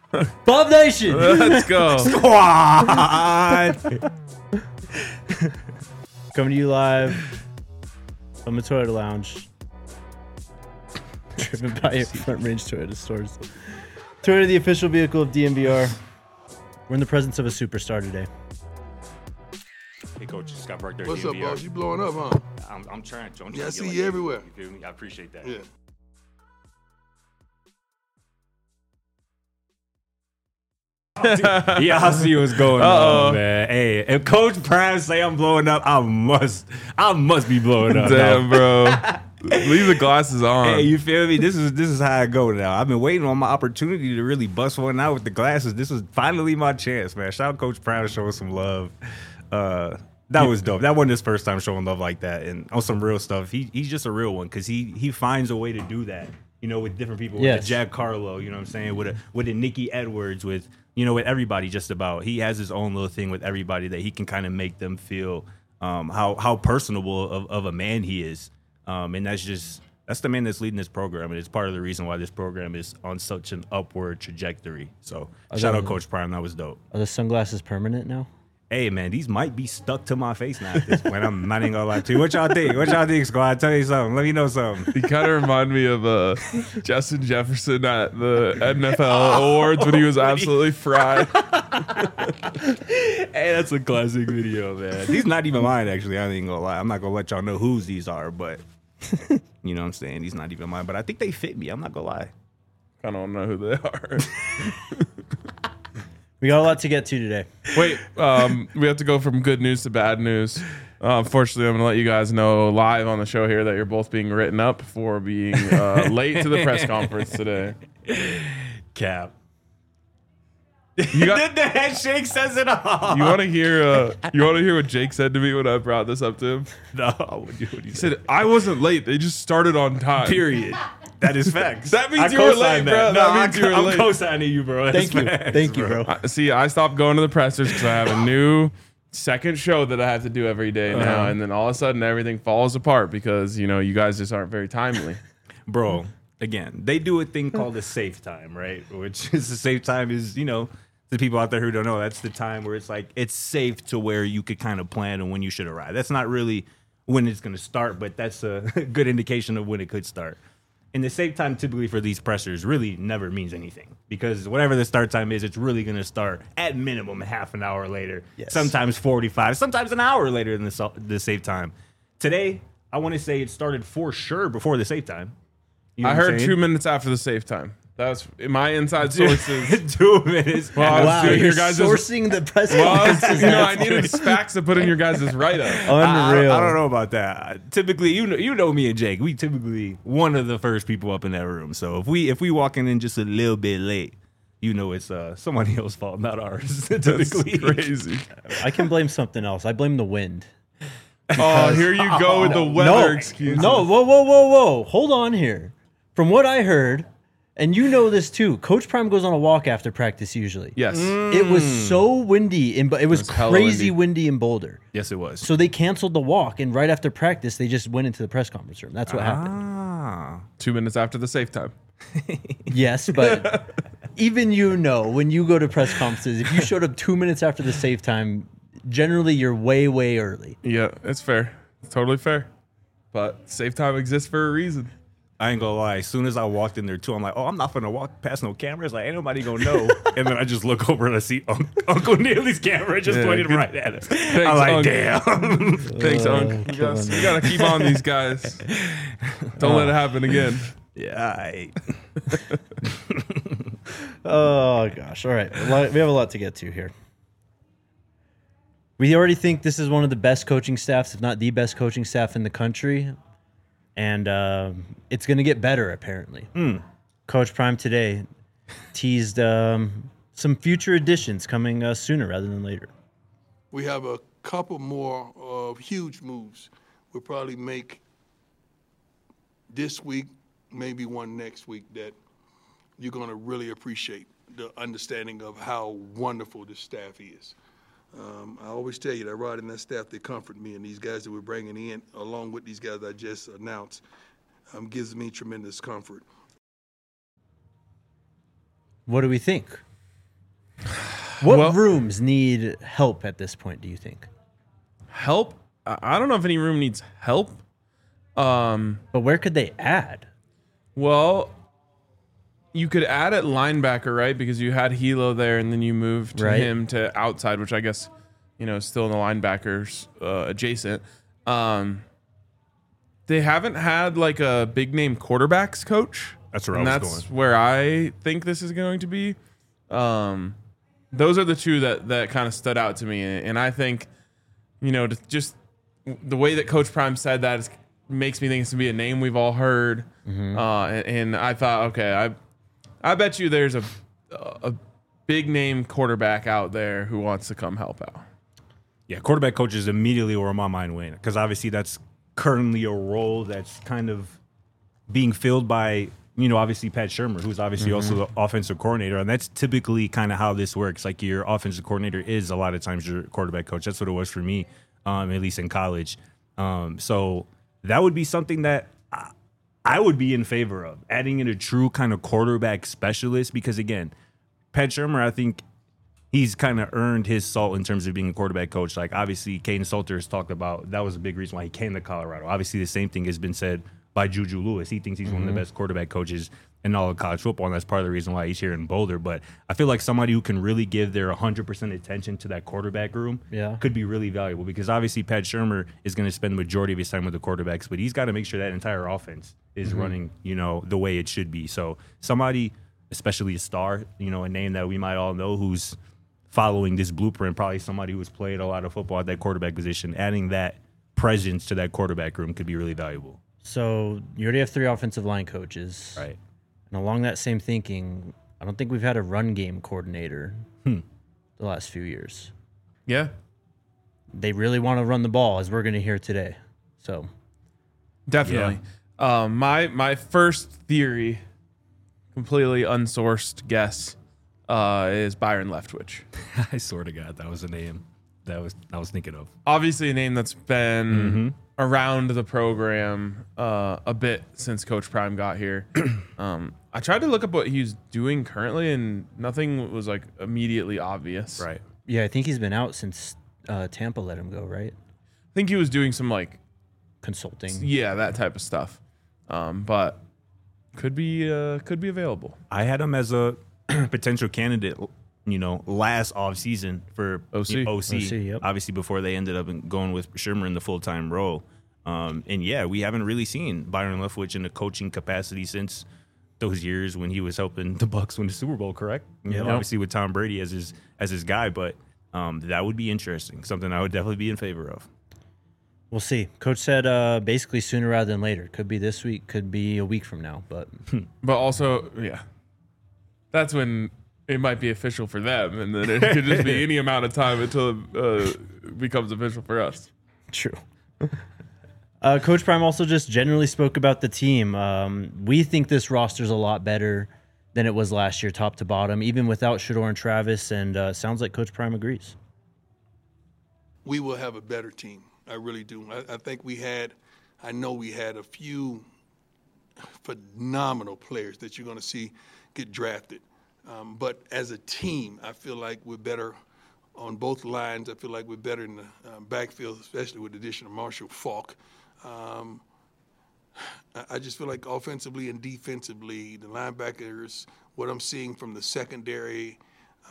Bob Nation. Let's go. Squad. Coming to you live from the Toyota Lounge. Driven by your Front Range Toyota stores. Toyota, the official vehicle of DNVR. We're in the presence of a superstar today. Hey, Coach, Scott Park there. What's up, DNVR. boss? You blowing up, huh? I'm trying to. Yeah, I see you everywhere. You feel me? I appreciate that. Yeah. Yeah, I see what's going on, man. Hey, if Coach Prime say I'm blowing up, I must be blowing up. Damn, bro. Leave the glasses on. Hey, you feel me? This is how I go now. I've been waiting on my opportunity to really bust one out with the glasses. This was finally my chance, man. Shout out Coach Prime to showing some love. That was dope. That wasn't his first time showing love like that, and on some real stuff. He's just a real one because he finds a way to do that. You know, with different people, with the Giancarlo, you know what I'm saying, with a Nikki Edwards, with everybody just about. He has his own little thing with everybody that he can kind of make them feel how personable of a man he is. And that's the man that's leading this program, and it's part of the reason why this program is on such an upward trajectory. So shout out Coach Prime, that was dope. Are the sunglasses permanent now? Hey, man, these might be stuck to my face now at this point. I'm not even gonna lie to you. What y'all think? What y'all think, squad? Tell you something. Let me know something. He kind of remind me of Justin Jefferson at the NFL awards when he was absolutely fried. Hey, that's a classic video, man. These not even mine, actually. I ain't gonna lie. I'm not gonna let y'all know whose these are, but you know what I'm saying? These not even mine, but I think they fit me. I'm not gonna lie. I don't know who they are. We got a lot to get to today. Wait, we have to go from good news to bad news. Unfortunately, I'm going to let you guys know live on the show here that you're both being written up for being late to the press conference today. Cap. You got, The handshake says it all. you want to hear what Jake said to me when I brought this up to him? No, what do you He said, I wasn't late. They just started on time. period. That is facts. That means I you were co-sign late, bro. No, That means you were I'm late. co-signing you, bro. That's Thank you. facts, Thank you, bro. See, I stopped going to the pressers because I have a new second show that I have to do every day now. And then all of a sudden everything falls apart because, you guys just aren't very timely. Bro, again, they do a thing called a safe time, right? Which is the safe time is, the people out there who don't know, that's the time where it's like it's safe to where you could kind of plan on when you should arrive. That's not really when it's going to start, but that's a good indication of when it could start. And the safe time typically for these pressers really never means anything because whatever the start time is, it's really going to start at minimum half an hour later, sometimes 45, sometimes an hour later than the safe time. Today, I want to say it started for sure before the safe time. You know I what I'm heard saying? 2 minutes after the safe time. That's my inside sources. 2 minutes. Well, Wow, doing you're your guys' sourcing the press Well, conferences. I needed facts to put in your guys' write-up. Unreal. I don't know about that. Typically, you know me and Jake. We typically one of the first people up in that room. So if we walking in just a little bit late, it's somebody else's fault, not ours. Typically, Crazy. I can blame something else. I blame the wind. Oh, here you go with the weather excuse. No, whoa. Hold on here. From what I heard, and you know this too, Coach Prime goes on a walk after practice usually. Yes. It was so windy, it was hella crazy windy. windy in Boulder. Yes, it was. So they canceled the walk, and right after practice, they just went into the press conference room. That's what happened. Ah, 2 minutes after the safe time. Yes, but even when you go to press conferences, if you showed up 2 minutes after the safe time, generally you're way, way early. Yeah, it's fair. It's totally fair. But safe time exists for a reason. I ain't gonna lie. As soon as I walked in there too, I'm like, oh, I'm not gonna walk past no cameras. Like, ain't nobody gonna know. And then I just look over and I see Uncle Neely's camera just pointed good. right at us. Thanks, I'm like, Unc. damn. Thanks, Unc. You gotta keep on these guys. Don't let it happen again. Yeah. Oh, gosh. All right. We have a lot to get to here. We already think this is one of the best coaching staffs, if not the best coaching staff in the country. And it's going to get better, apparently. Coach Prime today teased some future additions coming sooner rather than later. We have a couple more huge moves. We'll probably make this week, maybe one next week, that you're going to really appreciate the understanding of how wonderful this staff is. I always tell you that Rod and that staff, they comfort me, and these guys that we're bringing in, along with these guys I just announced, gives me tremendous comfort. What do we think? What rooms need help at this point, do you think? Help? I don't know if any room needs help. But where could they add? Well, you could add at linebacker, right? Because you had Hilo there, and then you moved him to outside, which I guess, is still in the linebackers adjacent. They haven't had like a big name quarterbacks coach. That's where That's where I think this is going to be. Those are the two that kind of stood out to me, and I think, just the way that Coach Prime said that makes me think it's gonna be a name we've all heard. And I thought, okay, I bet you there's a big name quarterback out there who wants to come help out. Yeah, quarterback coaches immediately were on my mind, Wayne, because obviously that's currently a role that's kind of being filled by, obviously Pat Shurmur, who's obviously also the offensive coordinator. And that's typically kind of how this works. Like your offensive coordinator is a lot of times your quarterback coach. That's what it was for me, at least in college. So that would be something that I would be in favor of, adding in a true kind of quarterback specialist, because again, Pat Shurmur, I think he's kind of earned his salt in terms of being a quarterback coach. Like obviously Caden Salter has talked about, that was a big reason why he came to Colorado. Obviously the same thing has been said by Juju Lewis. He thinks he's one of the best quarterback coaches in all of college football, and that's part of the reason why he's here in Boulder. But I feel like somebody who can really give their 100% attention to that quarterback room could be really valuable, because obviously Pat Shurmur is going to spend the majority of his time with the quarterbacks, but he's got to make sure that entire offense is running, the way it should be. So somebody, especially a star, a name that we might all know who's following this blueprint, probably somebody who's played a lot of football at that quarterback position, adding that presence to that quarterback room could be really valuable. So you already have 3 offensive line coaches. Right. And along that same thinking, I don't think we've had a run game coordinator the last few years. Yeah. They really want to run the ball, as we're going to hear today. So definitely. Yeah. My first theory, completely unsourced guess, is Byron Leftwich. I swear to God, that was a name that I was thinking of. Obviously a name that's been around the program a bit since Coach Prime got here. I tried to look up what he's doing currently, and nothing was like immediately obvious. Right. Yeah, I think he's been out since Tampa let him go, right? I think he was doing some like consulting. Yeah, that type of stuff. But could be available. I had him as a potential candidate, last offseason for OC. Yep. Obviously, before they ended up going with Shurmur in the full-time role. And yeah, we haven't really seen Byron Leftwich in a coaching capacity since those years when he was helping the Bucs win the Super Bowl, correct? Obviously with Tom Brady as his guy, but that would be interesting. Something I would definitely be in favor of. We'll see. Coach said basically sooner rather than later. Could be this week, could be a week from now, but also, yeah, that's when it might be official for them, and then it could just be any amount of time until it becomes official for us. True. Coach Prime also just generally spoke about the team. We think this roster's a lot better than it was last year, top to bottom, even without Shedeur and Travis, and sounds like Coach Prime agrees. We will have a better team. I really do. I think I know we had a few phenomenal players that you're going to see get drafted. But as a team, I feel like we're better on both lines. I feel like we're better in the backfield, especially with the addition of Marshall Faulk. I just feel like offensively and defensively, the linebackers, what I'm seeing from the secondary,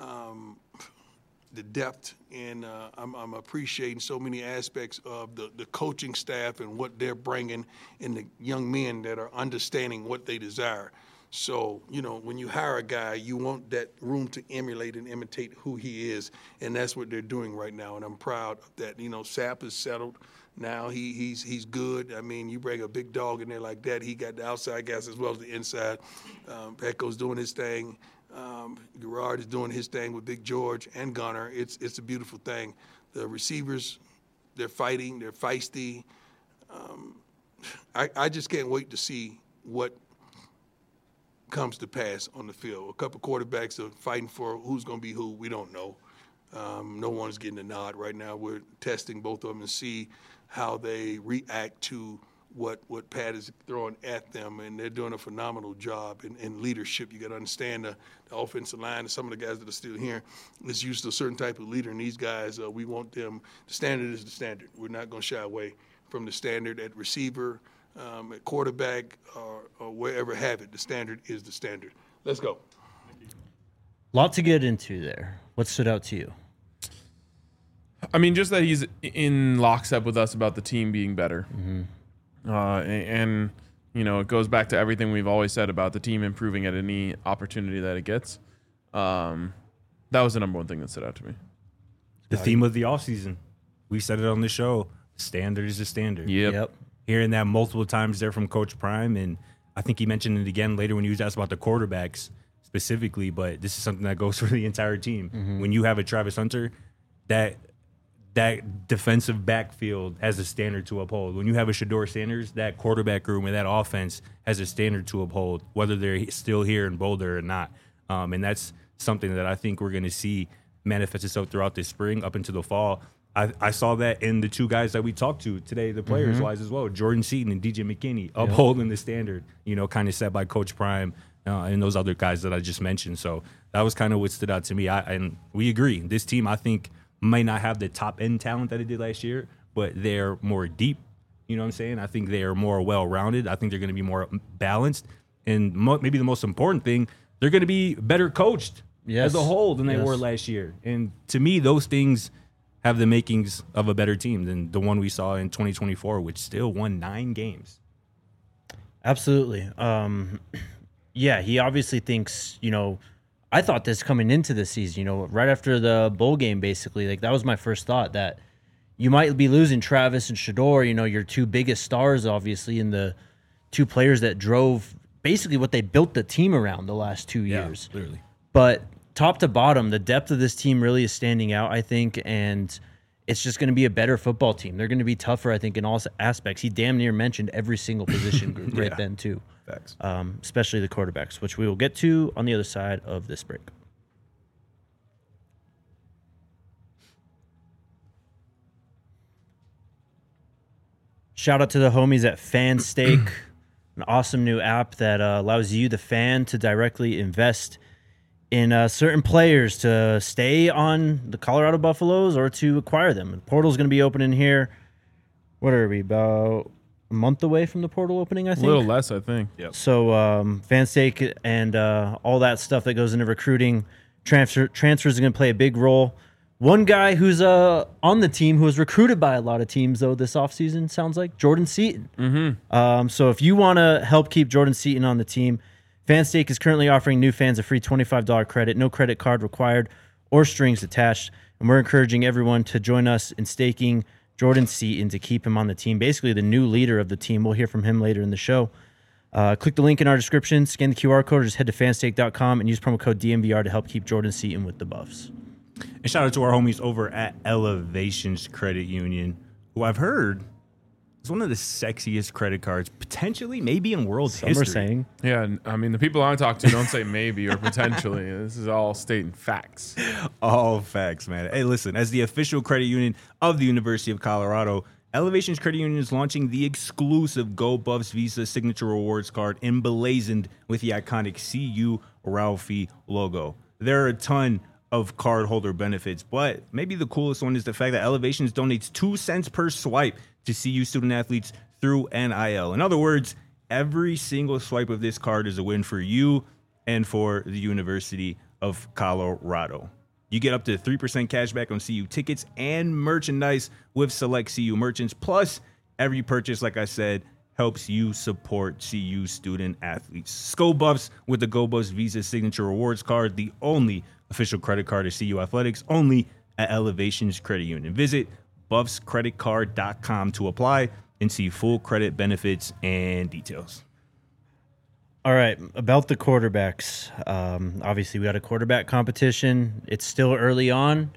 the depth, and I'm appreciating so many aspects of the coaching staff and what they're bringing, and the young men that are understanding what they desire. So, when you hire a guy, you want that room to emulate and imitate who he is, and that's what they're doing right now, and I'm proud of that. Sapp is settled now. He's good. I mean, you bring a big dog in there like that, he got the outside guys as well as the inside. Petco's doing his thing. Gerard is doing his thing with Big George and Gunner. It's a beautiful thing. The receivers, they're fighting, they're feisty. I just can't wait to see what comes to pass on the field. A couple quarterbacks are fighting for who's going to be who. We don't know. No one's getting a nod right now. We're testing both of them and see how they react to what Pat is throwing at them, and they're doing a phenomenal job in leadership. You got to understand the offensive line and some of the guys that are still here is used to a certain type of leader, and these guys, we want them. The standard is the standard. We're not going to shy away from the standard at receiver, at quarterback, or wherever have it. The standard is the standard. Let's go. Lot to get into there. What stood out to you? I mean, just that he's in lockstep with us about the team being better. And you know, it goes back to everything we've always said about the team improving at any opportunity that it gets. That was the number one thing that stood out to me. The theme of the offseason. We said it on the show. Standard is the standard. Yep. Hearing that multiple times there from Coach Prime, and I think he mentioned it again later when he was asked about the quarterbacks specifically, but this is something that goes for the entire team. When you have a Travis Hunter, that defensive backfield has a standard to uphold. When you have a Shedeur Sanders, that quarterback room and that offense has a standard to uphold, whether they're still here in Boulder or not. And that's something that I think we're going to see manifest itself throughout this spring up into the fall. I saw that in the two guys that we talked to today, the players-wise as well, Jordan Seaton and DJ McKinney, upholding the standard, you know, kind of set by Coach Prime and those other guys that I just mentioned. So that was kind of what stood out to me. And we agree. This team, I think, might not have the top-end talent that it did last year, but they're more deep. You know what I'm saying? I think they are more well-rounded. I think they're going to be more balanced. And maybe the most important thing, they're going to be better coached as a whole than they were last year. And to me, those things have the makings of a better team than the one we saw in 2024, which still won 9 games. Absolutely. Yeah, he obviously thinks, you know, I thought this coming into the season, you know, right after the bowl game, basically, like that was my first thought, that you might be losing Travis and Shedeur, you know, your two biggest stars, obviously, and the two players that drove basically what they built the team around the last 2 years. Literally. But top to bottom, the depth of this team really is standing out, I think, and it's just going to be a better football team. They're going to be tougher, I think, in all aspects. He damn near mentioned every single position group right then, too. Facts. Especially the quarterbacks, which we will get to on the other side of this break. Shout out to the homies at FanStake, an awesome new app that allows you, the fan, to directly invest in certain players to stay on the Colorado Buffaloes or to acquire them. The portal's going to be opening here. What are we, about a month away from the portal opening, I think? A little less, I think. Yep. So FanStake and all that stuff that goes into recruiting, transfers are going to play a big role. One guy who's on the team who was recruited by a lot of teams, though, this offseason, sounds like, Jordan Seaton. So if you want to help keep Jordan Seaton on the team, FanStake is currently offering new fans a free $25 credit, no credit card required or strings attached. And we're encouraging everyone to join us in staking Jordan Seaton to keep him on the team, basically the new leader of the team. We'll hear from him later in the show. Click the link in our description, scan the QR code, or just head to fanstake.com and use promo code DMVR to help keep Jordan Seaton with the Buffs. And shout out to our homies over at Elevations Credit Union, who I've heard is one of the sexiest credit cards, potentially, maybe in world history. Some are saying. Yeah, I mean, the people I talk to don't say maybe or potentially. This is all stating facts. All facts, man. Hey, listen, as the official credit union of the University of Colorado, Elevations Credit Union is launching the exclusive Go Buffs Visa Signature Rewards card emblazoned with the iconic CU Ralphie logo. There are a ton of cardholder benefits, but maybe the coolest one is the fact that Elevations donates 2 cents per swipe to CU student athletes through NIL. In other words, every single swipe of this card is a win for you and for the University of Colorado. You get up to 3% cash back on CU tickets and merchandise with select CU merchants. Plus, every purchase, like I said, helps you support CU student athletes. Go Buffs with the Go Buffs Visa Signature Rewards card, the only official credit card of CU Athletics, only at Elevations Credit Union. Visit buffscreditcard.com to apply and see full credit benefits and details. All right, about the quarterbacks. Obviously, we got a quarterback competition. It's still early on.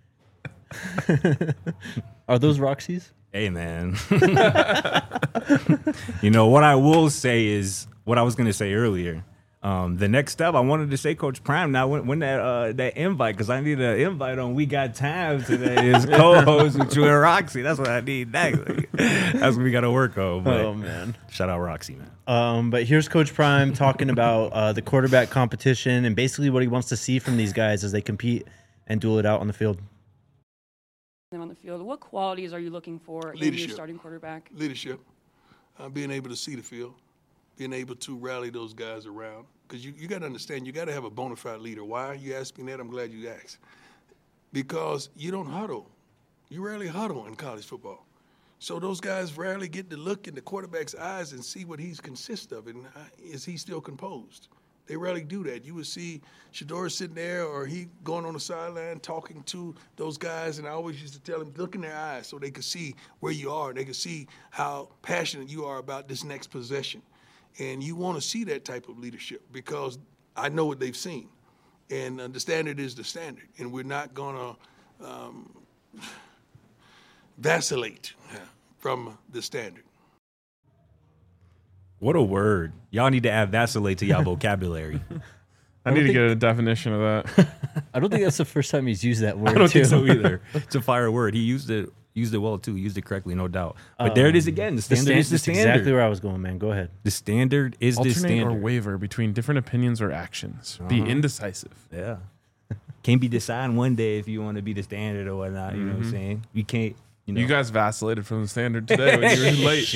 Are those Roxy's? Hey, man. You know, what I will say is what I was going to say earlier. The next step, I wanted to say, Coach Prime, now when that invite, because I need an invite on We Got Time today is co-host with you and Roxy. That's what I need next. That's what we got to work on. But Oh, man. shout out Roxy, man. But here's Coach Prime talking about the quarterback competition and basically what he wants to see from these guys as they compete and duel it out on the field. Them on the field. What qualities are you looking for in Leadership. your starting quarterback? Leadership, being able to see the field, being able to rally those guys around. Because you got to understand, you got to have a bona fide leader. Why? You asked me that. I'm glad you asked. Because you don't huddle. You rarely huddle in college football. So those guys rarely get to look in the quarterback's eyes and see what he's consists of and is he still composed. They rarely do that. You would see Shedeur sitting there or he going on the sideline talking to those guys, and I always used to tell him, look in their eyes so they could see where you are. They could see how passionate you are about this next possession. And you want to see that type of leadership because I know what they've seen. And the standard is the standard, and we're not going to vacillate from the standard. What a word. Y'all need to add vacillate to y'all vocabulary. I need to get a definition of that. I don't think that's the first time he's used that word, I don't too. think so either. It's a fire word. He used it well, too. He used it correctly, no doubt. But there it is again. The standard is the That's standard. exactly where I was going, man. Go ahead. The standard is the Alternate or standard. waver between different opinions or actions. Be indecisive. Yeah. Can't be deciding one day if you want to be the standard or whatnot. You know what I'm saying? You can't, you know. You guys vacillated from the standard today when you were late.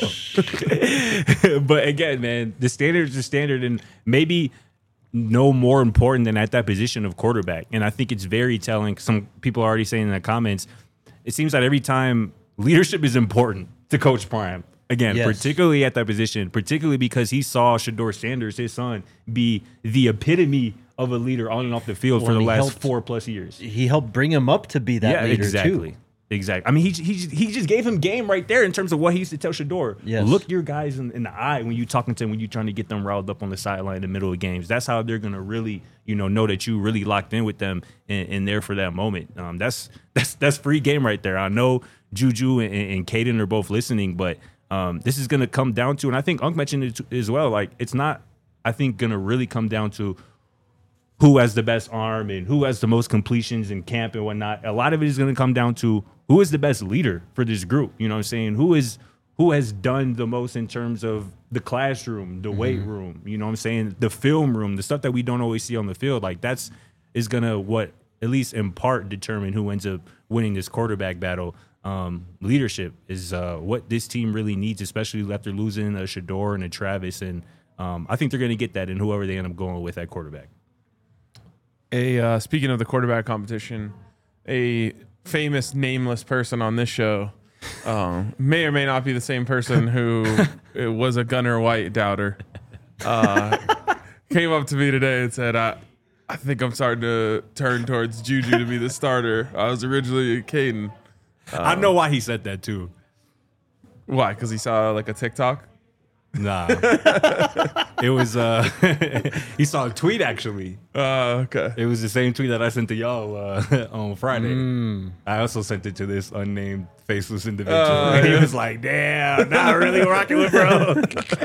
But again, man, the standard is the standard, and maybe no more important than at that position of quarterback. And I think it's very telling. Some people are already saying in the comments, it seems that every time leadership is important to Coach Prime. Again, Yes. particularly at that position, particularly because he saw Shedeur Sanders, his son, be the epitome of a leader on and off the field for Well, the he last helped- 4+ years. He helped bring him up to be that leader, exactly. too. Exactly. I mean, he just gave him game right there in terms of what he used to tell Shedeur. Yes. Look your guys in the eye when you're talking to them, when you're trying to get them riled up on the sideline in the middle of games. That's how they're gonna really, know that you really locked in with them and there for that moment. That's free game right there. I know Juju and Caden are both listening, but this is gonna come down to, and I think Unc mentioned it as well. Like, it's not, I think, gonna really come down to who has the best arm and who has the most completions in camp and whatnot. A lot of it is going to come down to who is the best leader for this group. You know what I'm saying? Who has done the most in terms of the classroom, the weight room, you know what I'm saying? The film room, the stuff that we don't always see on the field. Like, is going to, what, at least in part, determine who ends up winning this quarterback battle. Leadership is what this team really needs, especially after losing a Shedeur and a Travis. And I think they're going to get that in whoever they end up going with at quarterback. Speaking of the quarterback competition, a famous nameless person on this show may or may not be the same person who was a Gunnar White doubter. Came up to me today and said, I think I'm starting to turn towards Juju to be the starter. I was originally Caden. I know why he said that too. Why? Because he saw like a TikTok? Nah. It was he saw a tweet actually. Okay. It was the same tweet that I sent to y'all on Friday. I also sent it to this unnamed faceless individual. And he was like, damn, not really rocking with bro.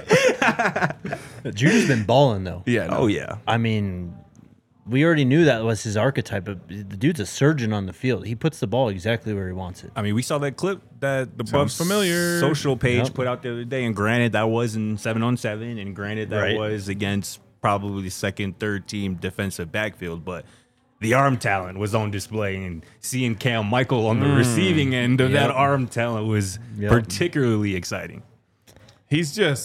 Juju's been balling, though. Yeah. No. Oh yeah. I mean, we already knew that was his archetype, but the dude's a surgeon on the field. He puts the ball exactly where he wants it. I mean, we saw that clip that the Sounds Buffs familiar. social page Yep. put out the other day, and granted that was in 7-on-7, and granted that Right. was against probably the second, third team defensive backfield, but the arm talent was on display, and seeing Cam Michael on the receiving end of that Yep. arm talent was Yep. particularly exciting. He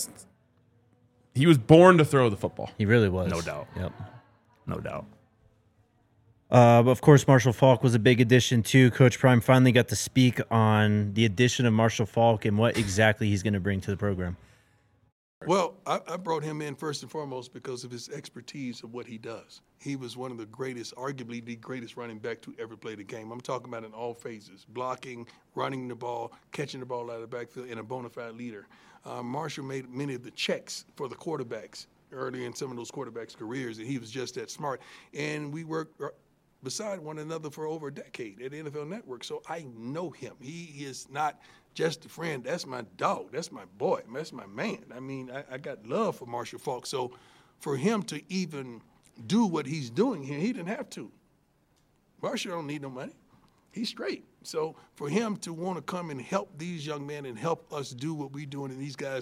was born to throw the football. He really was. No doubt. Yep. No doubt. But of course, Marshall Faulk was a big addition too. Coach Prime finally got to speak on the addition of Marshall Faulk and what exactly he's going to bring to the program. Well, I brought him in first and foremost because of his expertise of what he does. He was one of the greatest, arguably the greatest running back to ever play the game. I'm talking about in all phases, blocking, running the ball, catching the ball out of the backfield, and a bona fide leader. Marshall made many of the checks for the quarterbacks early in some of those quarterbacks' careers, and he was just that smart. And we worked beside one another for over a decade at the NFL Network, so I know him. He is not just a friend. That's my dog. That's my boy. That's my man. I mean, I got love for Marshall Faulk. So for him to even do what he's doing here, he didn't have to. Marshall don't need no money. He's straight. So for him to want to come and help these young men and help us do what we're doing and these guys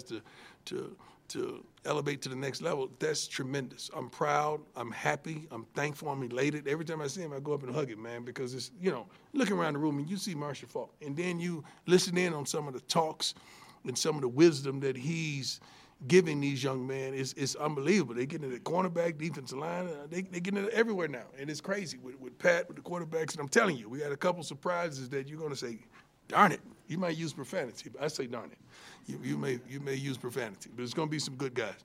to elevate to the next level, that's tremendous. I'm proud. I'm happy. I'm thankful. I'm elated. Every time I see him, I go up and hug him, man, because it's, looking around the room and you see Marshall Faulk, and then you listen in on some of the talks and some of the wisdom that he's giving these young men is unbelievable. They getting it at cornerback, defensive line. They getting it everywhere now, and it's crazy with Pat, with the quarterbacks. And I'm telling you, we got a couple surprises that you're going to say, darn it. You might use profanity, but I say darn it. You may use profanity, but it's going to be some good guys.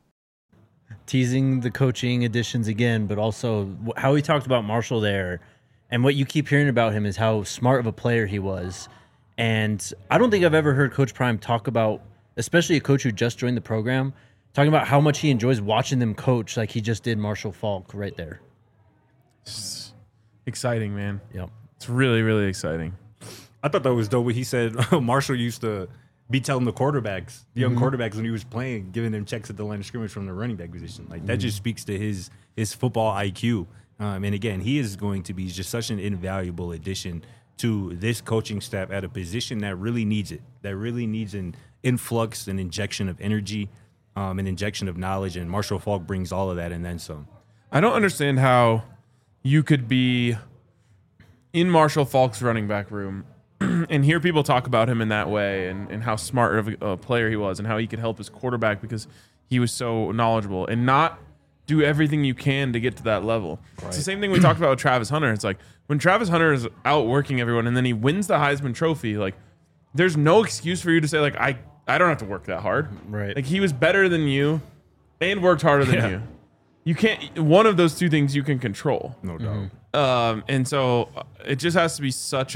Teasing the coaching additions again, but also how he talked about Marshall there, and what you keep hearing about him is how smart of a player he was. And I don't think I've ever heard Coach Prime talk about, especially a coach who just joined the program, talking about how much he enjoys watching them coach like he just did Marshall Faulk right there. It's exciting, man. Yep. It's really, really exciting. I thought that was dope what he said. Marshall used to be telling the quarterbacks, the young quarterbacks when he was playing, giving them checks at the line of scrimmage from the running back position. Like that just speaks to his football IQ. And again, he is going to be just such an invaluable addition to this coaching staff at a position that really needs it, that really needs an influx, an injection of energy, an injection of knowledge, and Marshall Faulk brings all of that and then some. I don't understand how you could be in Marshall Faulk's running back room and hear people talk about him in that way and how smart of a player he was and how he could help his quarterback because he was so knowledgeable and not do everything you can to get to that level. Right. It's the same thing we talked about with Travis Hunter. It's like when Travis Hunter is outworking everyone and then he wins the Heisman Trophy, like there's no excuse for you to say like, I don't have to work that hard. Right. Like he was better than you and worked harder than you. You can't, one of those two things you can control. No doubt. And so it just has to be such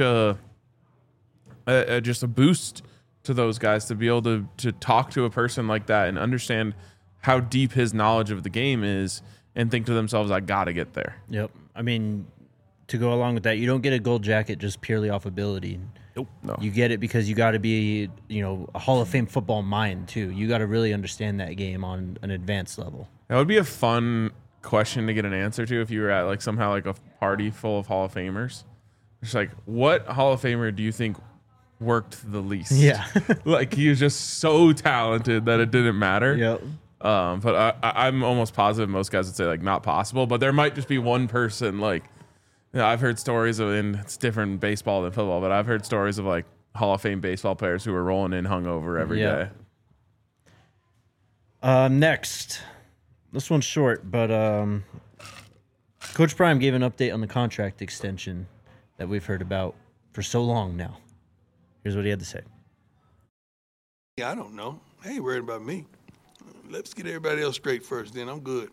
just a boost to those guys to be able to talk to a person like that and understand how deep his knowledge of the game is and think to themselves, I got to get there. Yep. I mean, to go along with that, you don't get a gold jacket just purely off ability. Nope. No. You get it because you got to be, a Hall of Fame football mind too. You got to really understand that game on an advanced level. That would be a fun question to get an answer to if you were at like somehow like a party full of Hall of Famers. It's like, what Hall of Famer do you think worked the least? Yeah. Like he was just so talented that it didn't matter. Yep. But I'm almost positive most guys would say like not possible, but there might just be one person like, I've heard stories of, and it's different in baseball than football, but I've heard stories of like Hall of Fame baseball players who were rolling in hungover every day. Next, this one's short, but Coach Prime gave an update on the contract extension that we've heard about for so long now. Here's what he had to say. Yeah, I don't know. I ain't worried about me. Let's get everybody else straight first, then I'm good.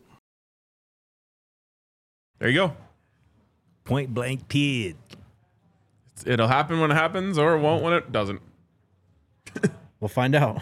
There you go. Point blank period. It'll happen when it happens, or it won't when it doesn't. We'll find out.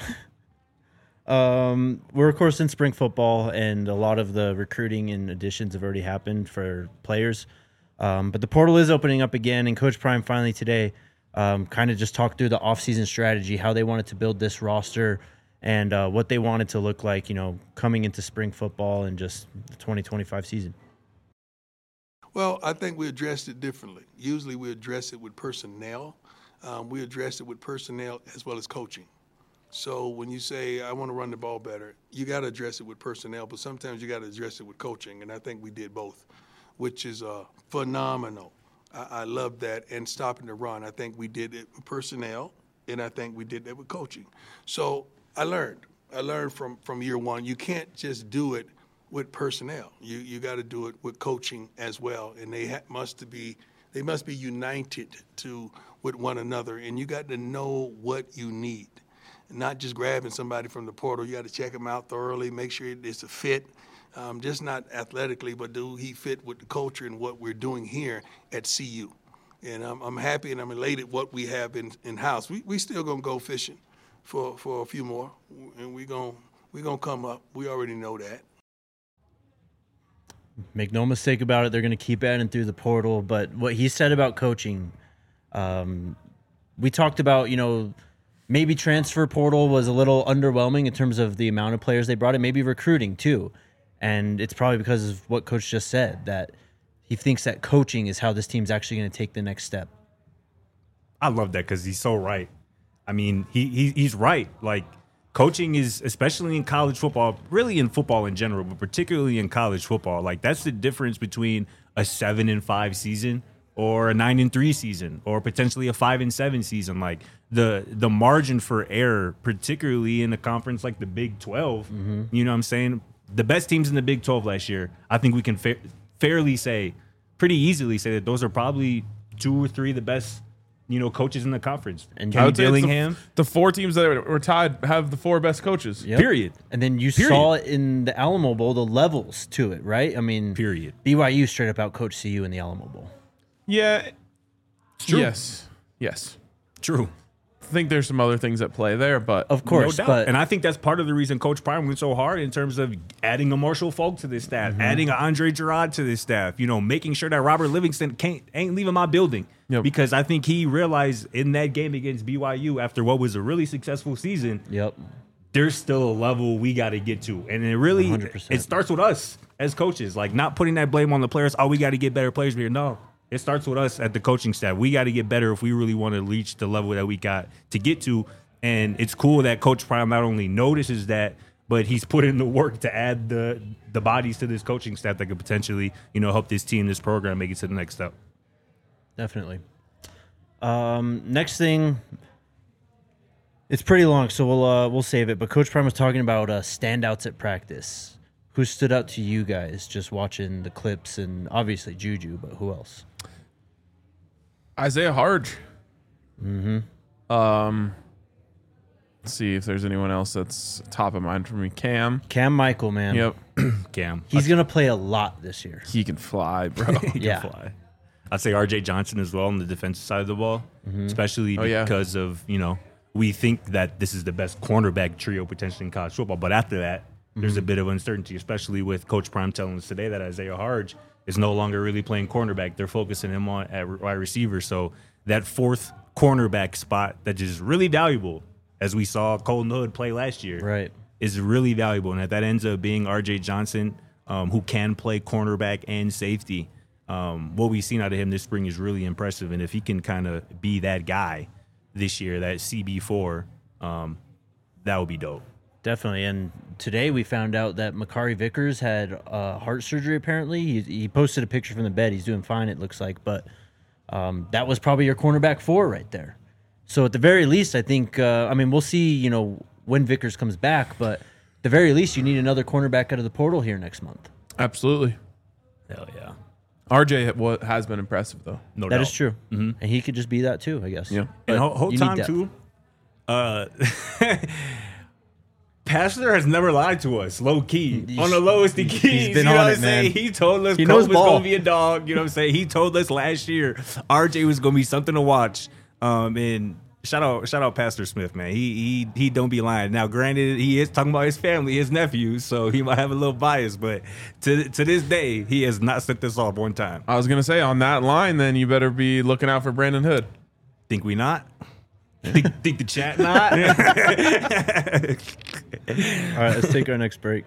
We're, of course, in spring football, and a lot of the recruiting and additions have already happened for players. But the portal is opening up again, and Coach Prime finally today kind of just talked through the offseason strategy, how they wanted to build this roster, and what they wanted to look like, coming into spring football and just the 2025 season. Well, I think we addressed it differently. Usually we address it with personnel. We address it with personnel as well as coaching. So when you say, I want to run the ball better, you got to address it with personnel, but sometimes you got to address it with coaching, and I think we did both, which is phenomenal. I love that. And stopping the run, I think we did it with personnel, and I think we did that with coaching. So I learned from year one, you can't just do it with personnel. You got to do it with coaching as well, and they must be united with one another, and you got to know what you need, not just grabbing somebody from the portal. You got to check them out thoroughly, make sure it's a fit, just not athletically, but do he fit with the culture and what we're doing here at CU. And I'm happy and I'm elated what we have in house. We still gonna go fishing for a few more, and we gonna come up. We already know that. Make no mistake about it, they're going to keep adding through the portal. But what he said about coaching, we talked about, maybe transfer portal was a little underwhelming in terms of the amount of players they brought in, maybe recruiting too. And it's probably because of what Coach just said, that he thinks that coaching is how this team's actually going to take the next step. I love that because he's so right. I mean, he's right. Like, coaching is, especially in college football, really in football in general, but particularly in college football, like that's the difference between a 7-5 season or a 9-3 season or potentially a 5-7 season. Like the margin for error, particularly in a conference like the Big 12, you know what I'm saying? The best teams in the Big 12 last year, I think we can fairly say, pretty easily say that those are probably 2 or 3 of the best, coaches in the conference. And I Kenny would say it's Dillingham, the 4 teams that were tied have the 4 best coaches. Yep. period. And then you saw it in the Alamo Bowl, the levels to it, right? I mean, Period. BYU straight up out coached CU in the Alamo Bowl. Yeah. true. Yes. True. I think there's some other things at play there, but Of course, No doubt. but And I think that's part of the reason Coach Prime went so hard in terms of adding a Marshall Falk to this staff, adding a Andre Gerard to this staff, making sure that Robert Livingston ain't leaving my building. Yep. Because I think he realized in that game against BYU, after what was a really successful season, yep. there's still a level we got to get to. And it really, 100%. it starts with us as coaches, like not putting that blame on the players. Oh, we got to get better players here. No, it starts with us at the coaching staff. We got to get better if we really want to reach the level that we got to get to. And it's cool that Coach Prime not only notices that, but he's put in the work to add the bodies to this coaching staff that could potentially, help this team, this program make it to the next step. Definitely. Next thing, it's pretty long, so we'll save it. But Coach Prime was talking about standouts at practice. Who stood out to you guys just watching the clips, and obviously Juju, but who else? Isaiah Harge. Let's see if there's anyone else that's top of mind for me. Cam Michael, man. Yep. Cam. He's going to play a lot this year. He can fly, bro. He can Yeah. fly. I'd say RJ Johnson as well on the defensive side of the ball, especially yeah. because of, we think that this is the best cornerback trio potentially in college football. But after that, there's a bit of uncertainty, especially with Coach Prime telling us today that Isaiah Harge is no longer really playing cornerback. They're focusing him on at wide receiver. So that 4th cornerback spot that is really valuable, as we saw Colton Hood play last year, Right. is really valuable. And if that ends up being RJ Johnson, who can play cornerback and safety, what we've seen out of him this spring is really impressive. And if he can kind of be that guy this year, that CB4, that would be dope. Definitely. And today we found out that Makari Vickers had heart surgery, apparently. He posted a picture from the bed. He's doing fine, it looks like. But that was probably your cornerback 4 right there. So at the very least, I think, we'll see, when Vickers comes back. But at the very least, you need another cornerback out of the portal here next month. Absolutely. Hell yeah. RJ has been impressive, though. No That doubt. is true. And he could just be that too, I guess. Yeah. But And whole you need time, depth. too, Pastor has never lied to us, low key, on the lowest of keys. He's been you know on what it, I'm saying? man. He told us He Cole knows was ball. going to be a dog. You know what I'm saying? He told us last year RJ was going to be something to watch. And shout out Pastor Smith, man. He don't be lying. Now, granted, he is talking about his family, his nephews, so he might have a little bias. But to this day, he has not set this off one time. I was going to say, on that line, then you better be looking out for Brandon Hood. Think we not? think the chat not? All right, let's take our next break.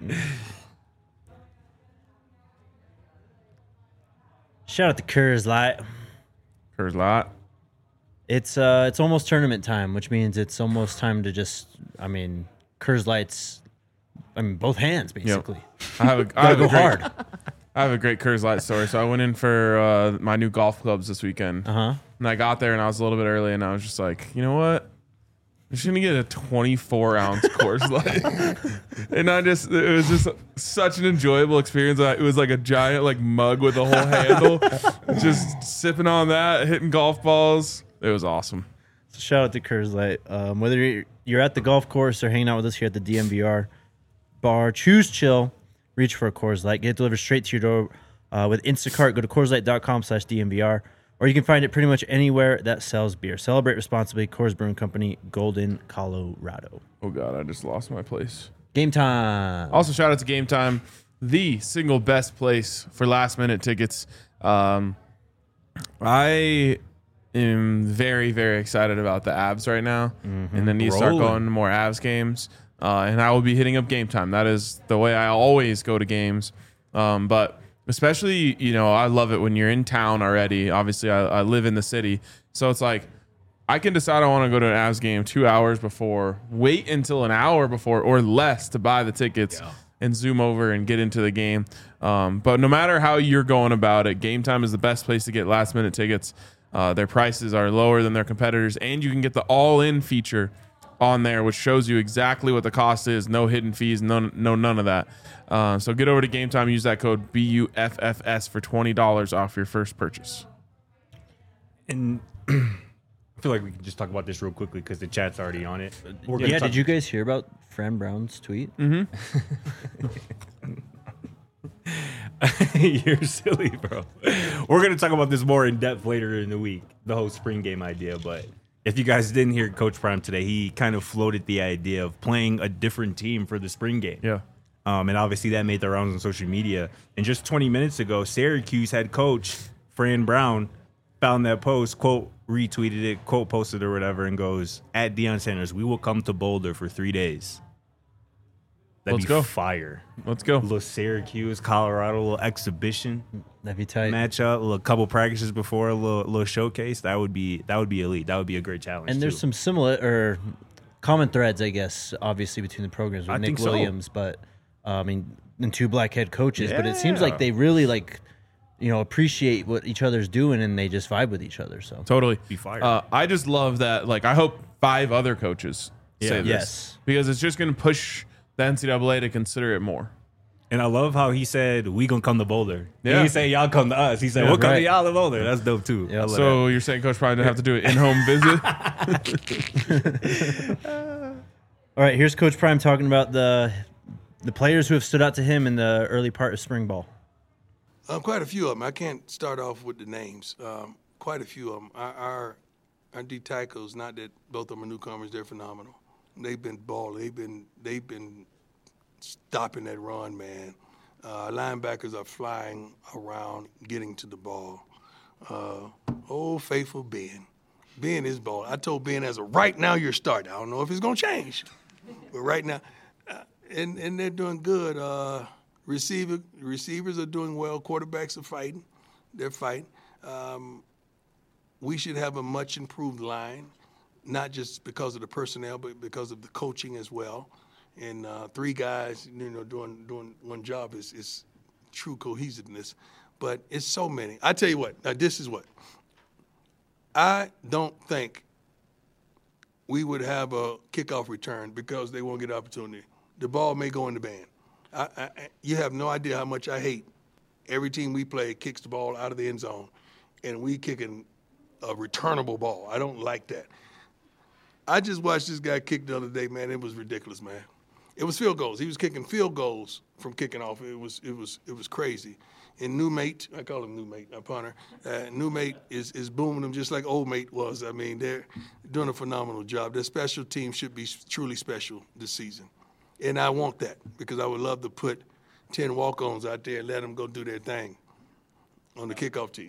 Shout out to Coors Light. There's a lot. It's almost tournament time, which means it's almost time to just, Coors Light's, both hands basically. I have a Gotta go great, hard. I have a great Coors Light story. So I went in for my new golf clubs this weekend. And I got there and I was a little bit early and I was just like, you know what? I'm just gonna get a 24-ounce Coors Light, and it was just such an enjoyable experience. It was like a giant mug with a whole handle, just sipping on that, hitting golf balls. It was awesome. So shout out to Coors Light. Whether you're at the golf course or hanging out with us here at the DMVR bar, choose chill, reach for a Coors Light, get it delivered straight to your door with Instacart. Go to CoorsLight.com/DMVR. Or you can find it pretty much anywhere that sells beer. Celebrate responsibly. Coors Brewing Company, Golden, Colorado. Oh God, I just lost my place. Game time. Also, shout out to Game Time, the single best place for last minute tickets. I am very, very excited about the Avs right now, and then you start Rolling. going to more Avs games. and I will be hitting up Game Time. That is the way I always go to games. But especially, I love it when you're in town already. Obviously, I live in the city, so it's like I can decide I want to go to an Avs game 2 hours before, wait until an hour before or less to buy the tickets. Yeah. And zoom over and get into the game. But no matter how you're going about it, Game Time is the best place to get last-minute tickets. Their prices are lower than their competitors, and you can get the all-in feature on there, which shows you exactly what the cost is. No hidden fees, none of that. So get over to Game Time, use that code BUFFS for $20 off your first purchase. And I feel like we can just talk about this real quickly because the chat's already on it. Did you guys hear about Fran Brown's tweet? Mm-hmm. You're silly, bro. We're going to talk about this more in depth later in the week, the whole spring game idea. But if you guys didn't hear Coach Prime today, he kind of floated the idea of playing a different team for the spring game. Yeah. And obviously that made the rounds on social media. And just 20 minutes ago, Syracuse head coach Fran Brown found that post, quote, retweeted it, quote, posted or whatever, and goes, at Deion Sanders, we will come to Boulder for 3 days. That'd Let's be go. fire. Let's go. A little Syracuse, Colorado, a little exhibition That'd be tight. matchup, a little couple practices before, a little showcase. That would be elite. That would be a great challenge. And there's some similar or common threads, I guess, obviously between the programs with I Nick think so. Williams, but and two black head coaches. But it seems like they really appreciate what each other's doing and they just vibe with each other. So Totally. Be fire. I just love that. Like, I hope 5 other coaches say this. Yes. Because it's just going to push the NCAA to consider it more. And I love how he said, we gonna come to Boulder. Yeah. He didn't say y'all come to us. He said, we'll come to y'all to Boulder. That's dope too. Yeah. I love So you're saying Coach Prime didn't have to do an in-home visit? all right, here's Coach Prime talking about the players who have stood out to him in the early part of spring ball. Quite a few of them. I can't start off with the names. Quite a few of them. Our D tackles, not that both of them are newcomers, they're phenomenal. They've been balling. They've been stopping that run, man. Linebackers are flying around, getting to the ball. Old faithful Ben. Ben is balling. I told Ben as of right now you're starting. I don't know if it's gonna change, but right now, and they're doing good. Receivers are doing well. Quarterbacks are fighting. They're fighting. We should have a much improved line, not just because of the personnel, but because of the coaching as well. And 3 guys, doing one job is true cohesiveness. But it's so many. I tell you what. Now this is what. I don't think we would have a kickoff return because they won't get an opportunity. The ball may go in the band. You have no idea how much I hate every team we play kicks the ball out of the end zone, and we kicking a returnable ball. I don't like that. I just watched this guy kick the other day, man. It was ridiculous, man. It was field goals. He was kicking field goals from kicking off. It was crazy. And new mate, I call him new mate, a punter. New mate is booming them just like old mate was. I mean, they're doing a phenomenal job. Their special team should be truly special this season. And I want that because I would love to put 10 walk-ons out there and let them go do their thing on the kickoff team.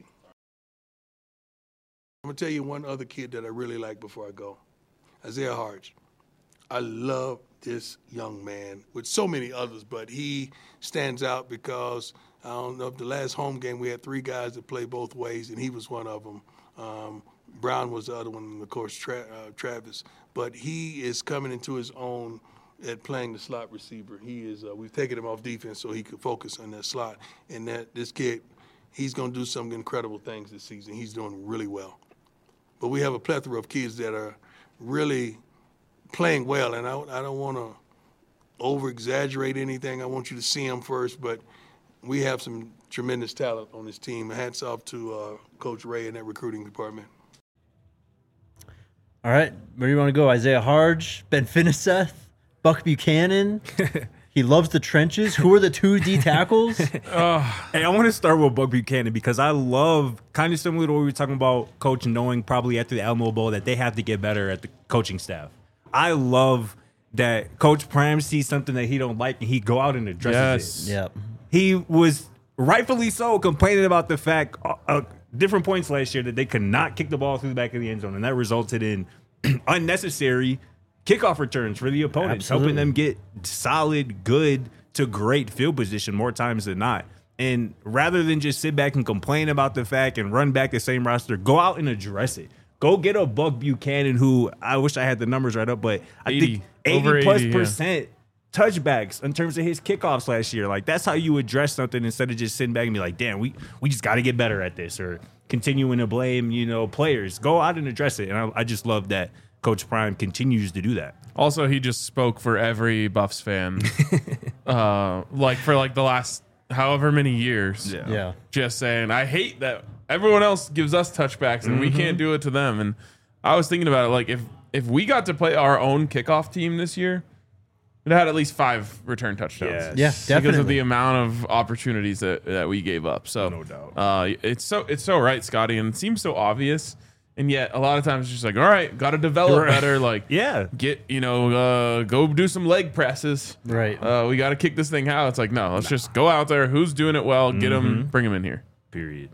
I'm going to tell you one other kid that I really like before I go, Isaiah Harge. I love this young man with so many others, but he stands out because I don't know if the last home game we had 3 guys that play both ways, and he was one of them. Brown was the other one, and of course Travis. But he is coming into his own at playing the slot receiver. He is. We've taken him off defense so he could focus on that slot. And this kid, he's going to do some incredible things this season. He's doing really well. But we have a plethora of kids that are really playing well, and I don't want to over-exaggerate anything. I want you to see them first, but we have some tremendous talent on this team. Hats off to Coach Ray and that recruiting department. All right, where do you want to go? Isaiah Harge, Ben Finiseth, Buck Buchanan. He loves the trenches. Who are the 2 D tackles? Hey, I want to start with Buck Buchanan because I love, kind of similar to what we were talking about, Coach knowing probably after the Alamo Bowl that they have to get better at the coaching staff. I love that Coach Prime sees something that he don't like and he go out and addresses it. Yep. He was rightfully so complaining about the fact different points last year that they could not kick the ball through the back of the end zone, and that resulted in unnecessary kickoff returns for the opponents, Absolutely. helping them get solid, good to great field position more times than not. And rather than just sit back and complain about the fact and run back the same roster, go out and address it. Go get a Buck Buchanan, who I wish I had the numbers right up, but I think 80+% touchbacks in terms of his kickoffs last year. Like, that's how you address something instead of just sitting back and be like, damn, we just got to get better at this, or continuing to blame, players. Go out and address it. And I just love that Coach Prime continues to do that. Also, he just spoke for every Buffs fan, for the last however many years. Yeah. Just saying, I hate that everyone else gives us touchbacks and we can't do it to them. And I was thinking about it, like, if we got to play our own kickoff team this year, it had at least 5 return touchdowns. Yes. Yeah, definitely. Because of the amount of opportunities that we gave up. So No doubt. it's so right, Scotty, and it seems so obvious. And yet a lot of times it's just like, all right, got to develop Right. better. Like, Yeah. get, go do some leg presses. Right. We got to kick this thing out. It's like, no, let's just go out there. Who's doing it well? Get them, bring them in here. Period.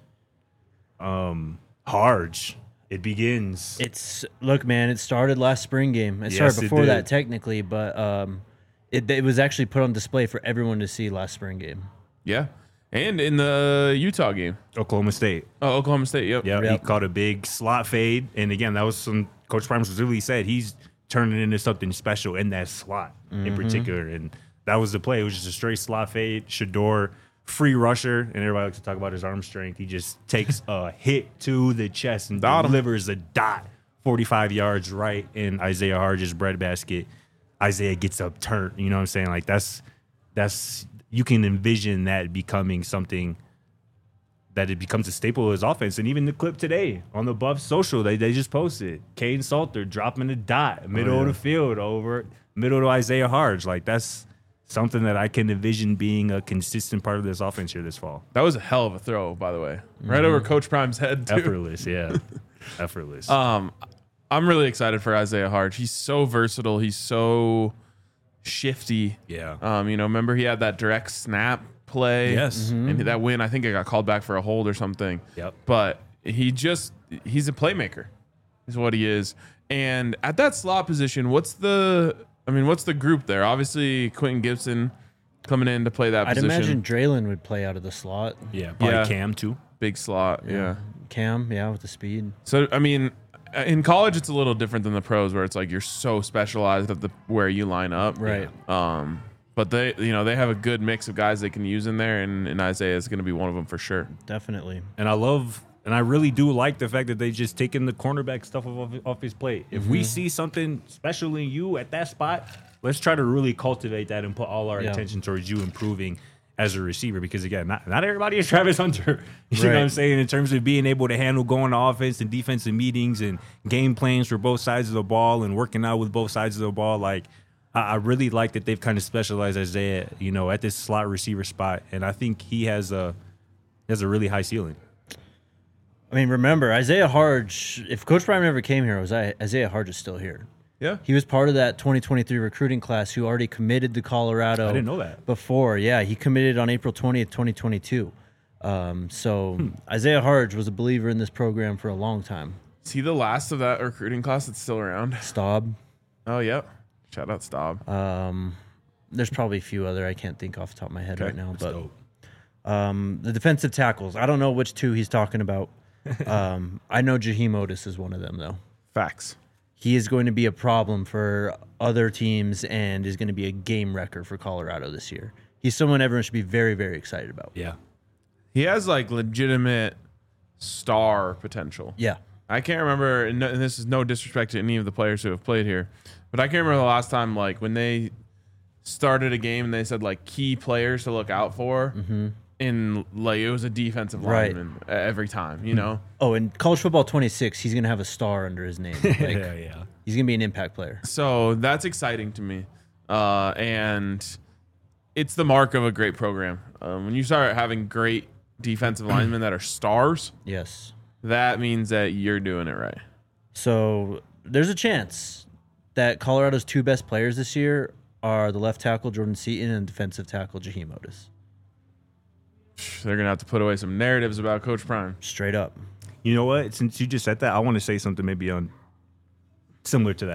Harge. It begins. Look, man, it started last spring game. It Yes, started it before did. that technically, but it was actually put on display for everyone to see last spring game. Yeah. And in the Utah game. Oklahoma State. Oh, Oklahoma State. Yep. Yeah, he Yep. caught a big slot fade. And again, that was some Coach Prime specifically said he's turning into something special in that slot in particular. And that was the play. It was just a straight slot fade. Shador, free rusher, and everybody likes to talk about his arm strength. He just takes a hit to the chest and Dot him. delivers a dot 45 yards right in Isaiah Harge's breadbasket. Isaiah gets upturned. You know what I'm saying? Like, that's you can envision that becoming something that it becomes a staple of his offense. And even the clip today on the Buffs social, they just posted Caden Salter dropping a dot middle of the field over middle to Isaiah Harge. Like, that's something that I can envision being a consistent part of this offense here this fall. That was a hell of a throw, by the way. Right over Coach Prime's head, too. Effortless, yeah. Effortless. I'm really excited for Isaiah Harge. He's so versatile. He's so shifty. Yeah. Remember he had that direct snap play. Yes. And that win, I think it got called back for a hold or something. Yep. But he's a playmaker is what he is. And at that slot position, what's the group there? Obviously, Quentin Gibson coming in to play that I'd position. imagine Draylon would play out of the slot. Yeah, probably Yeah. Cam too. Big slot, yeah. Cam, yeah, with the speed. So, in college, it's a little different than the pros where it's like you're so specialized at where you line up. Right. But they have a good mix of guys they can use in there, and Isaiah is going to be one of them for sure. Definitely. And I really do like the fact that they just taken the cornerback stuff off his plate. If we see something special in you at that spot, let's try to really cultivate that and put all our attention towards you improving as a receiver. Because again, not everybody is Travis Hunter. You know what I'm saying? In terms of being able to handle going to offense and defensive meetings and game plans for both sides of the ball and working out with both sides of the ball. Like, I really like that they've kind of specialized Isaiah, at this slot receiver spot. And I think he has a really high ceiling. I mean, remember, Isaiah Harge, if Coach Prime never came here, Isaiah Harge is still here. Yeah. He was part of that 2023 recruiting class who already committed to Colorado. I didn't know that. Before. Yeah, he committed on April 20th, 2022. Isaiah Harge was a believer in this program for a long time. Is he the last of that recruiting class that's still around? Staub. Oh, yep. Shout out Staub. There's probably a few other I can't think off the top of my head right now. That's But dope. the defensive tackles, I don't know which two he's talking about. I know Jaheim Otis is one of them, though. Facts. He is going to be a problem for other teams and is going to be a game wrecker for Colorado this year. He's someone everyone should be very, very excited about. Yeah. He has like legitimate star potential. Yeah. I can't remember, and this is no disrespect to any of the players who have played here, but I can't remember the last time like when they started a game and they said like key players to look out for. And like it was a defensive Right. lineman every time, Oh, and college football 26, he's going to have a star under his name. Like, Yeah. He's going to be an impact player. So that's exciting to me. And it's the mark of a great program. When you start having great defensive linemen that are stars, Yes. that means that you're doing it right. So there's a chance that Colorado's two best players this year are the left tackle, Jordan Seaton, and defensive tackle, Jaheim Otis. They're going to have to put away some narratives about Coach Prime. Straight up. You know what? Since you just said that, I want to say something maybe on similar to that.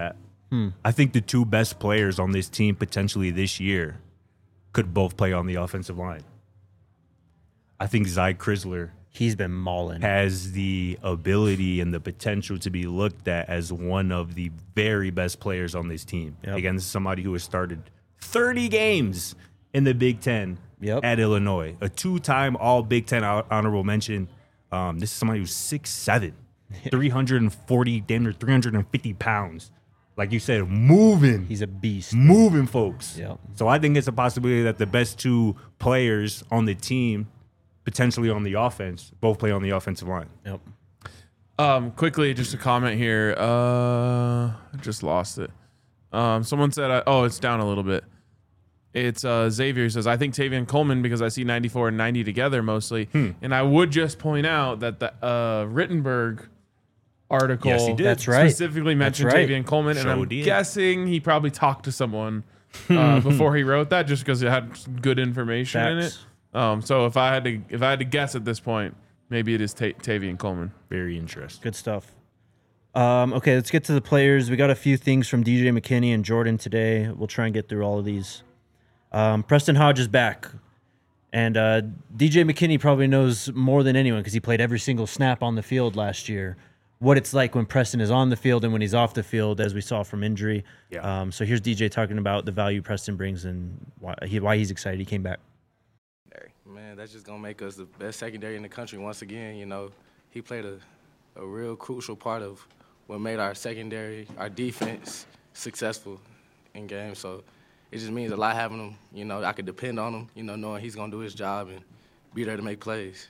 I think the two best players on this team potentially this year could both play on the offensive line. I think Zy Chrysler He's been mauling. has the ability and the potential to be looked at as one of the very best players on this team. Yep. Again, this is somebody who has started 30 games in the Big Ten Yep. at Illinois, a two-time All Big Ten honorable mention. This is somebody who's 6'7", 340, damn near 350 pounds. Like you said, moving. He's a beast. Moving folks. Yep. So I think it's a possibility that the best two players on the team, potentially on the offense, both play on the offensive line. Yep. Quickly, just a comment here. I just lost it. Someone said, it's down a little bit. It's Xavier says, I think Tavian Coleman because I see 94 and 90 together mostly. And I would just point out that the Rittenberg article Yes, he did. That's right. specifically mentioned That's right. Tavian Coleman, and Sure I'm did. guessing he probably talked to someone before he wrote that, just because it had good information in it. Facts. So if I had to guess at this point, maybe it is Tavian Coleman. Very interesting. Good stuff. Okay, let's get to the players. We got a few things from DJ McKinney and Jordan today. We'll try and get through all of these. Preston Hodge is back. And DJ McKinney probably knows more than anyone because he played every single snap on the field last year, what it's like when Preston is on the field and when he's off the field, as we saw from injury. Yeah. So here's DJ talking about the value Preston brings and why he's excited he came back. Man, that's just going to make us the best secondary in the country once again. You know, he played a real crucial part of what made our secondary, our defense, successful in games. So it just means a lot having him. You know, I could depend on him, you know, knowing he's going to do his job and be there to make plays.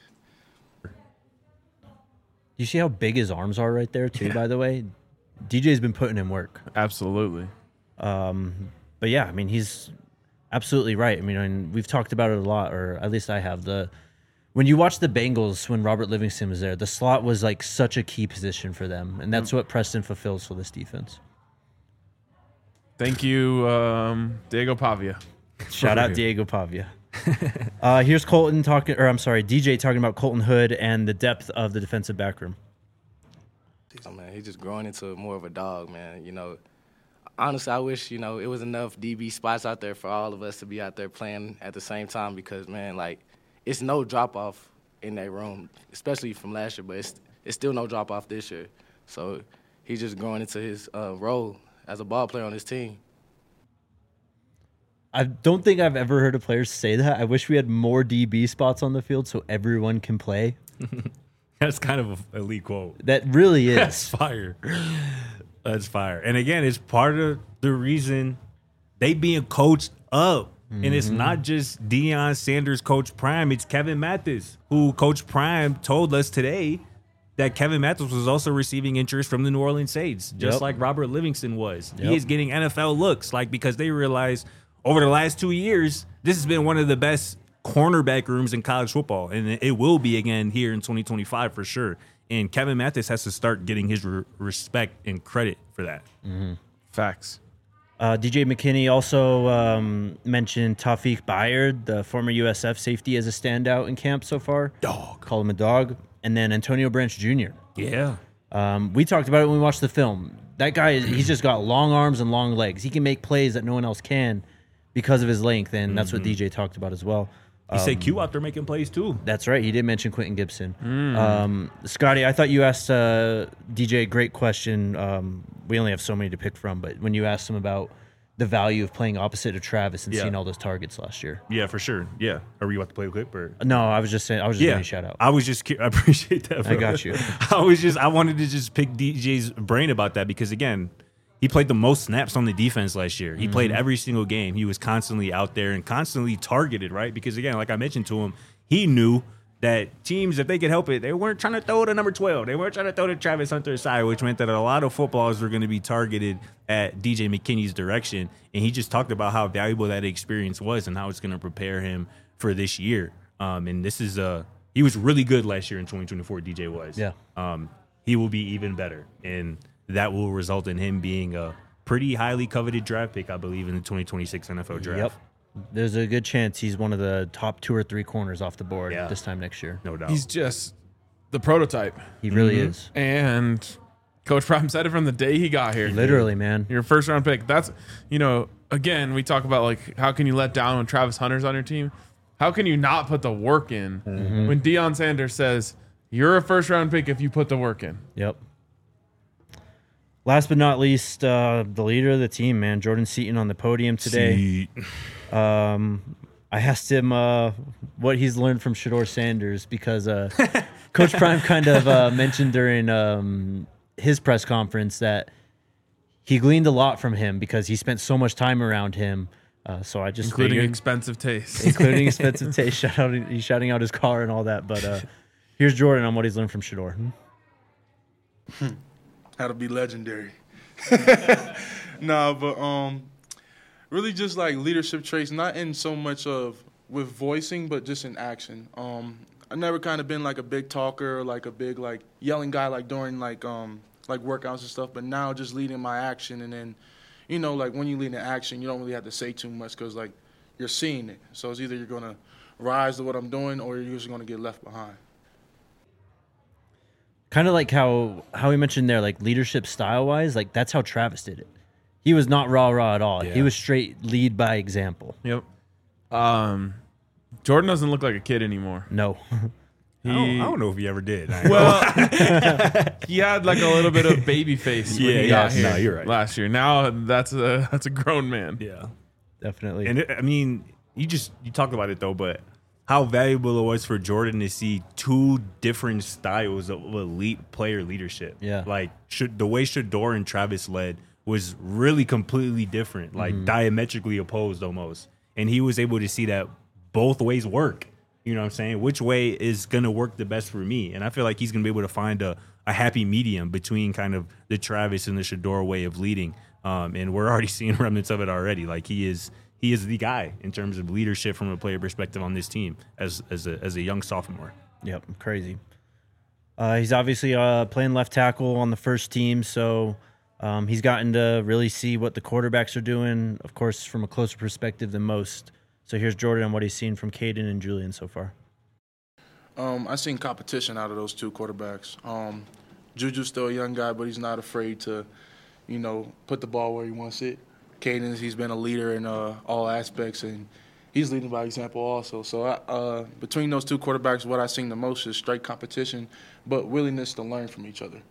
You see how big his arms are right there, too, by the way? DJ's been putting in work. Absolutely. But yeah, I mean, he's absolutely right. I mean, and we've talked about it a lot, or at least I have. When you watch the Bengals when Robert Livingston was there, the slot was like such a key position for them, and that's what Preston fulfills for this defense. Thank you, Diego Pavia. Shout out Diego Pavia. Here's DJ talking about Colton Hood and the depth of the defensive back room. Oh, man, he's just growing into more of a dog, man. You know, honestly, I wish, you know, it was enough DB spots out there for all of us to be out there playing at the same time because, man, like, it's no drop-off in that room, especially from last year, but it's still no drop-off this year. So he's just growing into his role as a ball player on his team. I don't think I've ever heard a player say that. I wish we had more DB spots on the field so everyone can play. That's kind of an elite quote. That really is. That's fire. That's fire. And again, it's part of the reason they being coached up. And it's not just Deion Sanders, Coach Prime. It's Kevin Mathis, who Coach Prime told us today that Kevin Mathis was also receiving interest from the New Orleans Saints, just like Robert Livingston was. Yep. He is getting NFL looks, because they realized over the last 2 years, this has been one of the best cornerback rooms in college football, and it will be again here in 2025 for sure. And Kevin Mathis has to start getting his respect and credit for that. Facts. DJ McKinney also mentioned Tawfiq Bayard, the former USF safety, as a standout in camp so far. Dog. Call him a dog. And then Antonio Branch Jr. Yeah. We talked about it when we watched the film. That guy, he's just got long arms and long legs. He can make plays that no one else can because of his length, and that's what DJ talked about as well. He said Q out there making plays too. That's right. He did mention Quentin Gibson. Scotty, I thought you asked DJ a great question. We only have so many to pick from, but when you asked him about the value of playing opposite of Travis and seeing all those targets last year. Yeah, for sure. Yeah. Are you about to play a clip or? No, I was just saying. I was just giving you a shout out. I was just. I appreciate that. Bro. I got you. I wanted to just pick DJ's brain about that because again, he played the most snaps on the defense last year. He played every single game. He was constantly out there and constantly targeted, right? Because again, like I mentioned to him, he knew that teams, if they could help it, they weren't trying to throw to number 12. They weren't trying to throw to Travis Hunter's side, which meant that a lot of footballs were going to be targeted at DJ McKinney's direction. And he just talked about how valuable that experience was and how it's going to prepare him for this year. And this is he was really good last year in 2024, DJ was. Yeah. He will be even better. And that will result in him being a pretty highly coveted draft pick, I believe, in the 2026 NFL draft. Yep. There's a good chance he's one of the top 2 or 3 corners off the board this time next year. No doubt. He's just the prototype. He really is. And Coach Prime said it from the day he got here. Literally, man. Your first round pick. That's, again, we talk about like how can you let down when Travis Hunter's on your team? How can you not put the work in when Deion Sanders says you're a first round pick if you put the work in? Yep. Last but not least, the leader of the team, man, Jordan Seaton on the podium today. I asked him what he's learned from Shedeur Sanders because Coach Prime kind of mentioned during his press conference that he gleaned a lot from him because he spent so much time around him. So I just Including figured, expensive taste. including expensive taste. He's shouting out his car and all that. But here's Jordan on what he's learned from Shedeur. How to be legendary. But really just like leadership traits, not in so much of with voicing, but just in action. I've never kind of been like a big talker or like a big like yelling guy like during like workouts and stuff, but now just leading my action. And then, like when you lead in action, you don't really have to say too much because like you're seeing it. So it's either you're going to rise to what I'm doing or you're just going to get left behind. Kind of like how he mentioned there, like leadership style wise, like that's how Travis did it. He was not rah at all. Yeah. He was straight lead by example. Yep. Jordan doesn't look like a kid anymore. No. I don't know if he ever did. Well, he had like a little bit of baby face when he got here you're right. last year. Now that's a grown man. Yeah. Definitely. And you talked about it though, but how valuable it was for Jordan to see two different styles of elite player leadership. Yeah. Like the way Shedeur and Travis led was really completely different, like diametrically opposed almost. And he was able to see that both ways work. You know what I'm saying? Which way is going to work the best for me? And I feel like he's going to be able to find a happy medium between kind of the Travis and the Shedeur way of leading. And we're already seeing remnants of it already. Like he is the guy in terms of leadership from a player perspective on this team as a young sophomore. Yep, crazy. He's obviously playing left tackle on the first team, so he's gotten to really see what the quarterbacks are doing, of course, from a closer perspective than most. So here's Jordan on what he's seen from Caden and Julian so far. I've seen competition out of those two quarterbacks. Juju's still a young guy, but he's not afraid to, put the ball where he wants it. Caden, he's been a leader in all aspects, and he's leading by example also. So between those two quarterbacks, what I've seen the most is straight competition, but willingness to learn from each other.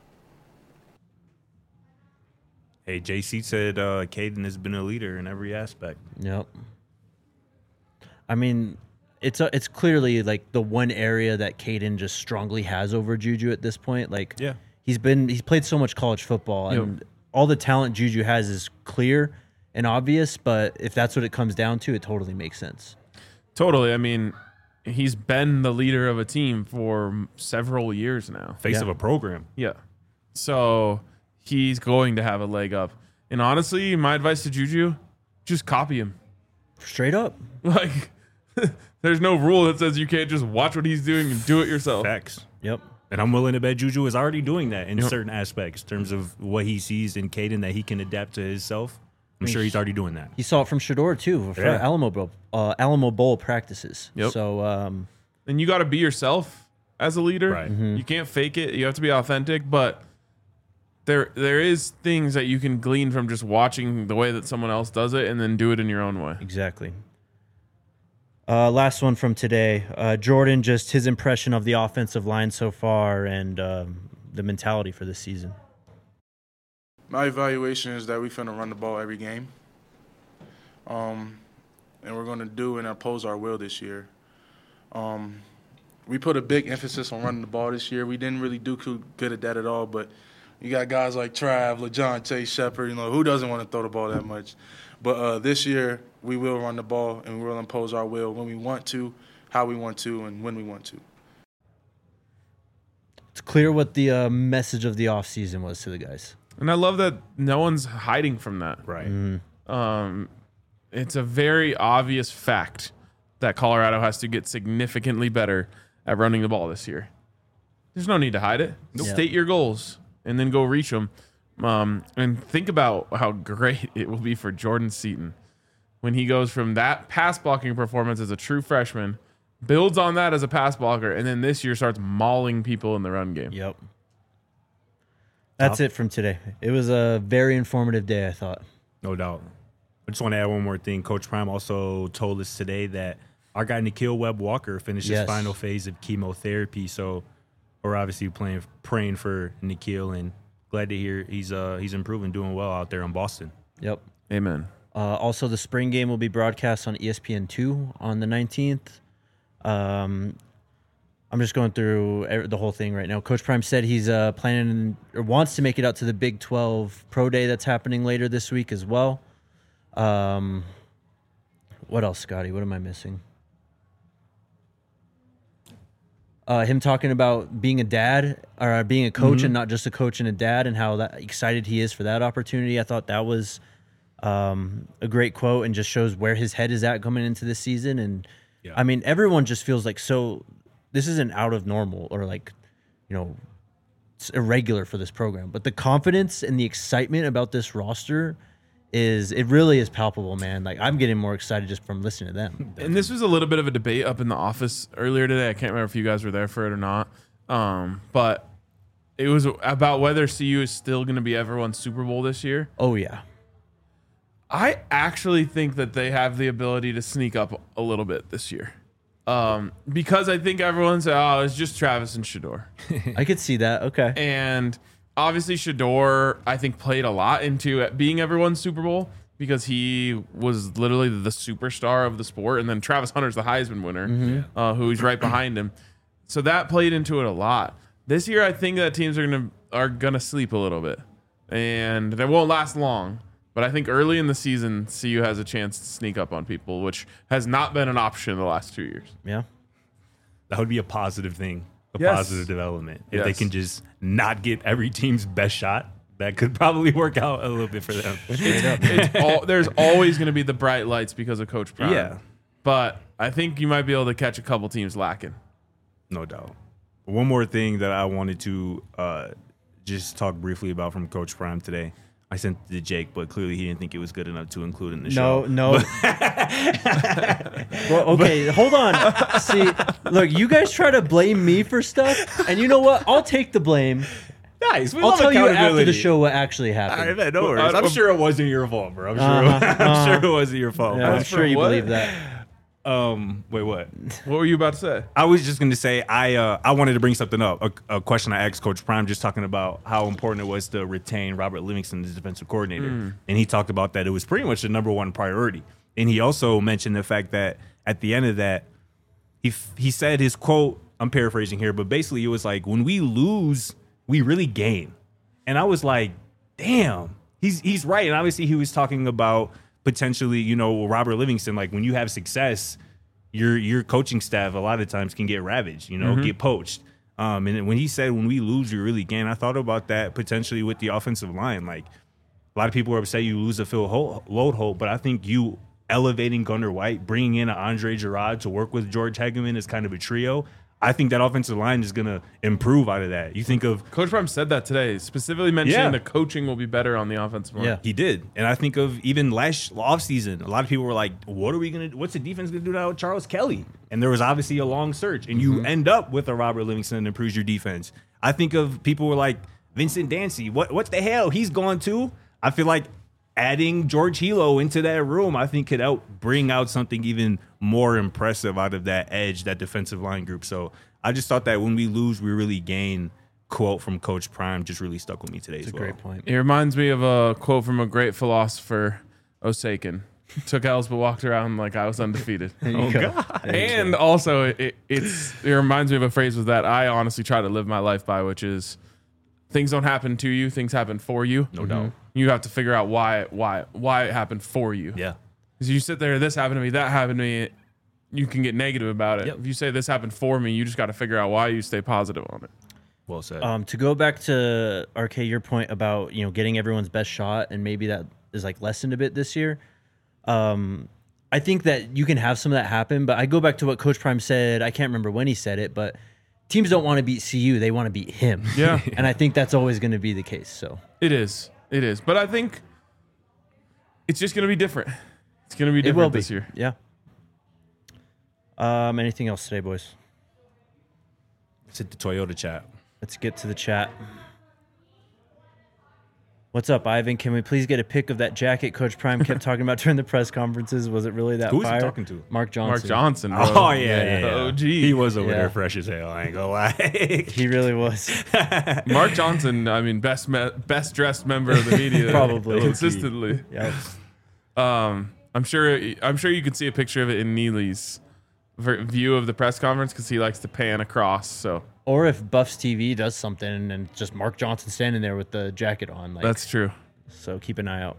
Hey, JC said Caden has been a leader in every aspect. Yep. I mean, it's clearly like the one area that Caden just strongly has over Juju at this point. Like, Yeah. he's played so much college football, and all the talent Juju has is clear and obvious. But if that's what it comes down to, it totally makes sense. Totally. I mean, he's been the leader of a team for several years now. Face of a program. Yeah. So he's going to have a leg up. And honestly, my advice to Juju, just copy him. Straight up. Like, there's no rule that says you can't just watch what he's doing and do it yourself. Facts. Yep. And I'm willing to bet Juju is already doing that in certain aspects in terms of what he sees in Caden that he can adapt to himself. I'm sure he's already doing that. He saw it from Shedeur too for Yeah. Alamo Bowl practices. Yep. So And you got to be yourself as a leader. Right. You can't fake it. You have to be authentic. But there is things that you can glean from just watching the way that someone else does it and then do it in your own way. exactly. Last one from today. Jordan, just his impression of the offensive line so far and the mentality for this season. My evaluation is that we're finna run the ball every game. And we're going to do and oppose our will this year. We put a big emphasis on running the ball this year. We didn't really do too good at that at all, but you got guys like Trav, LeJon, Chase Shepard, who doesn't want to throw the ball that much? But this year, we will run the ball and we will impose our will when we want to, how we want to, and when we want to. It's clear what the message of the offseason was to the guys. And I love that no one's hiding from that. Right. It's a very obvious fact that Colorado has to get significantly better at running the ball this year. There's no need to hide it. Nope. State your goals and then go reach them. And think about how great it will be for Jordan Seaton when he goes from that pass blocking performance as a true freshman, builds on that as a pass blocker, and then this year starts mauling people in the run game. Yep. That's it from today. It was a very informative day, I thought. No doubt. I just want to add one more thing. Coach Prime also told us today that our guy Nikhil Webb-Walker finished his final phase of chemotherapy. So we're obviously praying for Nikhil, and glad to hear he's improving, doing well out there in Boston. Yep. Amen. Also, the spring game will be broadcast on ESPN2 on the 19th. I'm just going through the whole thing right now. Coach Prime said he's planning or wants to make it out to the Big 12 Pro Day that's happening later this week as well. What else, Scotty? What am I missing? Him talking about being a dad or being a coach and not just a coach and a dad, and how excited he is for that opportunity. I thought that was a great quote and just shows where his head is at coming into this season. And I mean, everyone just feels like this isn't out of normal or it's irregular for this program, but the confidence and the excitement about this roster it really is palpable, man. Like, I'm getting more excited just from listening to them. And this was a little bit of a debate up in the office earlier today. I can't remember if you guys were there for it or not. But it was about whether CU is still going to be everyone's Super Bowl this year. Oh, yeah. I actually think that they have the ability to sneak up a little bit this year. Because I think everyone said, oh, it's just Travis and Shador. I could see that. Okay. And obviously Shador, I think, played a lot into it being everyone's Super Bowl because he was literally the superstar of the sport. And then Travis Hunter's the Heisman winner, who's right behind him. So that played into it a lot. This year, I think that teams are gonna sleep a little bit. And they won't last long. But I think early in the season, CU has a chance to sneak up on people, which has not been an option in the last 2 years. Yeah. That would be a positive thing, positive development. If they can just not get every team's best shot, that could probably work out a little bit for them. There's always going to be the bright lights because of Coach Prime. Yeah. But I think you might be able to catch a couple teams lacking. No doubt. One more thing that I wanted to just talk briefly about from Coach Prime today. I sent it to Jake, but clearly he didn't think it was good enough to include in the show. No. Well, okay, hold on. See, look, you guys try to blame me for stuff, and you know what? I'll take the blame. Nice. I'll tell you after the show what actually happened. All right, man, no worries. I'm sure it wasn't your fault, bro. I'm sure it wasn't your fault. Yeah, I'm sure you believe that. Wait, what? What were you about to say? I was just going to say I wanted to bring something up. A question I asked Coach Prime, just talking about how important it was to retain Robert Livingston as defensive coordinator, and he talked about that it was pretty much the number one priority. And he also mentioned the fact that at the end of that, he said his quote. I'm paraphrasing here, but basically it was like, when we lose, we really gain. And I was like, damn, he's right. And obviously he was talking about potentially, Robert Livingston, like when you have success, your coaching staff a lot of times can get ravaged, get poached. And when he said, when we lose, we really gain, I thought about that potentially with the offensive line. Like, a lot of people are upset you lose a Phil Loadholt, but I think you elevating Gunnar White, bringing in an Andre Gerard to work with George Hegeman as kind of a trio, I think that offensive line is going to improve out of that. You think of Coach Prime said that today, specifically mentioning the coaching will be better on the offensive line. Yeah. He did. And I think of even last offseason, a lot of people were like, what's the defense going to do now with Charles Kelly? And there was obviously a long search. And you end up with a Robert Livingston that improves your defense. I think of people were like, Vincent Dancy, what the hell? He's gone too. I feel like adding George Hilo into that room, I think could help bring out something even more impressive out of that edge, that defensive line group. So I just thought that when we lose, we really gain. Quote from Coach Prime just really stuck with me today as well. Great point. It reminds me of a quote from a great philosopher, Osakin. Took L's but walked around like I was undefeated. God. And also, it reminds me of a phrase with that I honestly try to live my life by, which is things don't happen to you, things happen for you. No doubt. You have to figure out why it happened for you. Yeah. Because you sit there, this happened to me, that happened to me, you can get negative about it. Yep. If you say this happened for me, you just got to figure out why you stay positive on it. Well said. To go back to RK, your point about getting everyone's best shot, and maybe that is like lessened a bit this year. I think that you can have some of that happen, but I go back to what Coach Prime said. I can't remember when he said it, but teams don't want to beat CU; they want to beat him. Yeah, and I think that's always going to be the case. So it is, but I think it's just going to be different. It's going to be different this year. Yeah. Anything else today, boys? Let's hit the Toyota chat. Let's get to the chat. What's up, Ivan? Can we please get a pic of that jacket Coach Prime kept talking about during the press conferences? Was it really that Who was he fire? talking to? Mark Johnson. Mark Johnson, bro. Oh, yeah. The OG. He was over Yeah. there fresh as hell. I ain't gonna lie. He really was. Mark Johnson, I mean, best dressed member of the media. Probably. Consistently. Yeah. I'm sure you could see a picture of it in Neely's view of the press conference because he likes to pan across. So Or if Buffs TV does something and just Mark Johnson standing there with the jacket on. Like, that's true. So keep an eye out.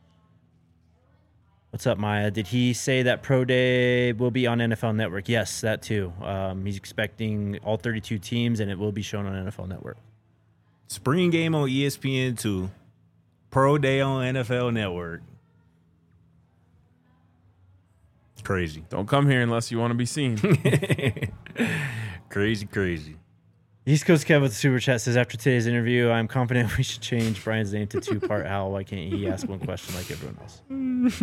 What's up, Maya? Did he say that Pro Day will be on NFL Network? Yes, that too. He's expecting all 32 teams, and it will be shown on NFL Network. Spring game on ESPN2. Pro Day on NFL Network. Crazy. Don't come here unless you want to be seen. Crazy. East Coast Kev with the Super Chat says, after today's interview, I'm confident we should change Brian's name to two-part Hal. Why can't he ask one question like everyone else?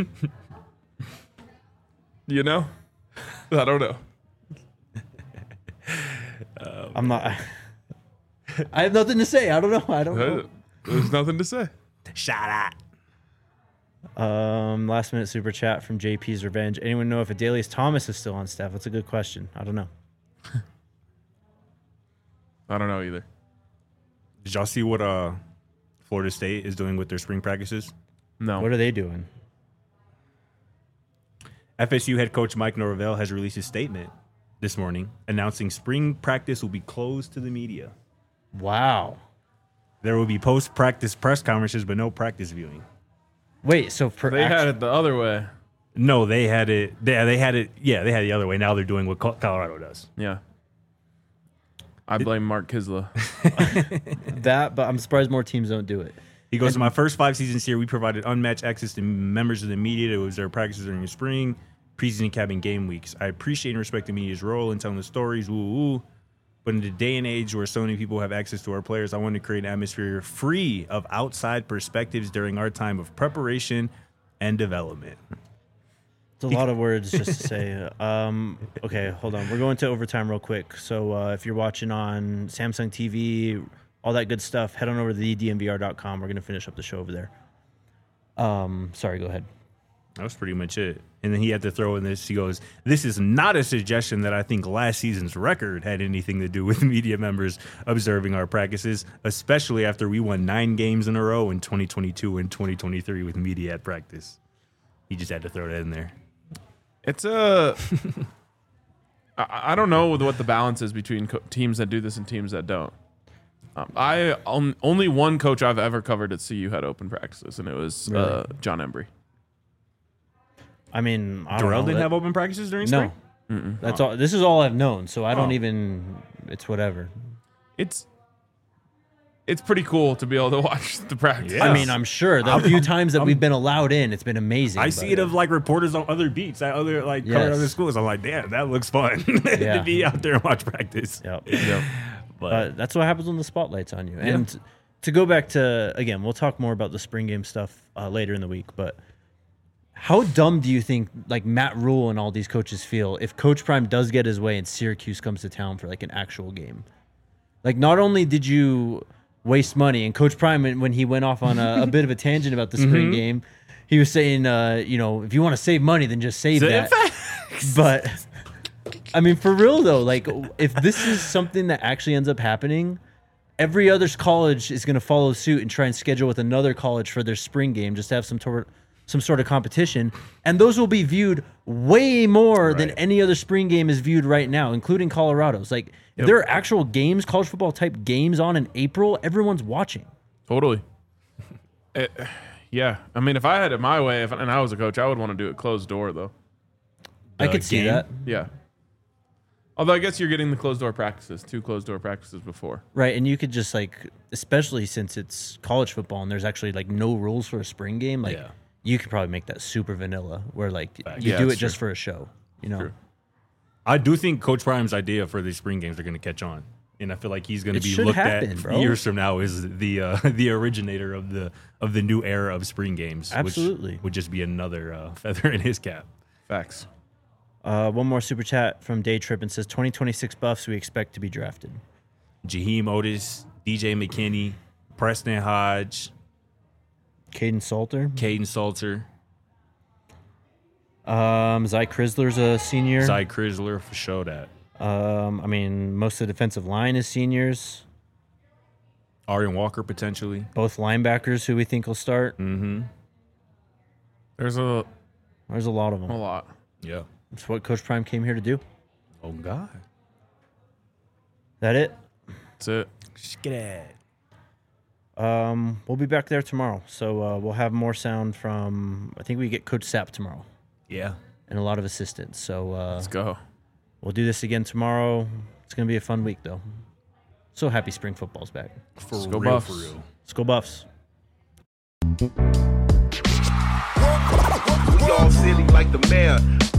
You know? I don't know. I'm not... I have nothing to say. I don't know. There's nothing to say. Shout out. Last minute Super Chat from JP's Revenge. Anyone know if Adelius Thomas is still on staff? That's a good question. I don't know. I don't know either. Did y'all see what Florida State is doing with their spring practices? No. What are they doing? FSU head coach Mike Norvell has released a statement this morning announcing spring practice will be closed to the media. Wow. There will be post-practice press conferences, but no practice viewing. Wait, so They had it the other way. No, they had it. They had it. Yeah, they had it the other way. Now they're doing what Colorado does. Yeah. I blame Mark Kisla. that, but I'm surprised more teams don't do it. He goes, in my first 5 seasons here, we provided unmatched access to members of the media to observe practices during the spring, preseason camp, and game weeks. I appreciate and respect the media's role in telling the stories, woo. But in the day and age where so many people have access to our players, I want to create an atmosphere free of outside perspectives during our time of preparation and development. It's a lot of words just to say. Okay, hold on. We're going to overtime real quick. So if you're watching on Samsung TV, all that good stuff, head on over to thedmvr.com. We're going to finish up the show over there. Sorry, go ahead. That was pretty much it. And then he had to throw in this. He goes, this is not a suggestion that I think last season's record had anything to do with media members observing our practices, especially after we won 9 games in a row in 2022 and 2023 with media at practice. He just had to throw that in there. It's I don't know what the balance is between teams that do this and teams that don't. Only one coach I've ever covered at CU had open practices, and it was Really? John Embry. I mean, I don't Darrell know. didn't have open practices during No. spring? That's all. This is all I've known, so I don't Oh. even. It's whatever. It's pretty cool to be able to watch the practice. Yeah. I mean, I'm sure the few times that we've been allowed in, it's been amazing. I but- see it of like reporters on other beats at other like Yes. covered other schools. I'm like, damn, that looks fun Yeah. to be out there and watch practice. Yep. But That's what happens when the spotlight's on you. And to go back to, again, we'll talk more about the spring game stuff later in the week, but how dumb do you think like Matt Rule and all these coaches feel if Coach Prime does get his way and Syracuse comes to town for like an actual game? Like, not only did you waste money, and Coach Prime, when he went off on a bit of a tangent about the spring game, he was saying, if you want to save money, then just save that. But I mean, for real though, like if this is something that actually ends up happening, every other college is going to follow suit and try and schedule with another college for their spring game just to have some sort of competition, and those will be viewed way more than any other spring game is viewed right now, including Colorado's. Like, if there are actual games, college football type games on in April, everyone's watching. Totally. Yeah. I mean, if I had it my way, and I was a coach, I would want to do it closed door, though. I could see game? that. Yeah. Although I guess you're getting the closed door practices, 2 closed door practices before. Right, and you could just like, especially since it's college football and there's actually like no rules for a spring game, like you could probably make that super vanilla where like you Yeah, do it that's just true. for a show, you know. True. I do think Coach Prime's idea for these spring games are going to catch on, and I feel like he's going to It be should looked happen, at bro. years from now as the originator of the new era of spring games. Absolutely. which would just be another feather in his cap. Facts. One more super chat from Day Trip and says 2026 Buffs we expect to be drafted. Jaheim Otis, DJ McKinney, Preston Hodge, Caden Salter. Caden Salter. Zy Chrysler's a senior. Zy Chrysler for sure that. I mean, most of the defensive line is seniors. Arian Walker potentially. Both linebackers who we think will start. Mm-hmm. There's a lot of them. a lot. Yeah. It's what Coach Prime came here to do. Oh God. That it? That's it. We'll be back there tomorrow. So we'll have more sound from, I think we get Coach Sapp tomorrow. Yeah. And a lot of assistants. So Let's go. we'll do this again tomorrow. It's going to be a fun week, though. So happy spring football's back. For go real, Buffs. for real. Let's go Buffs. We all silly like the mayor.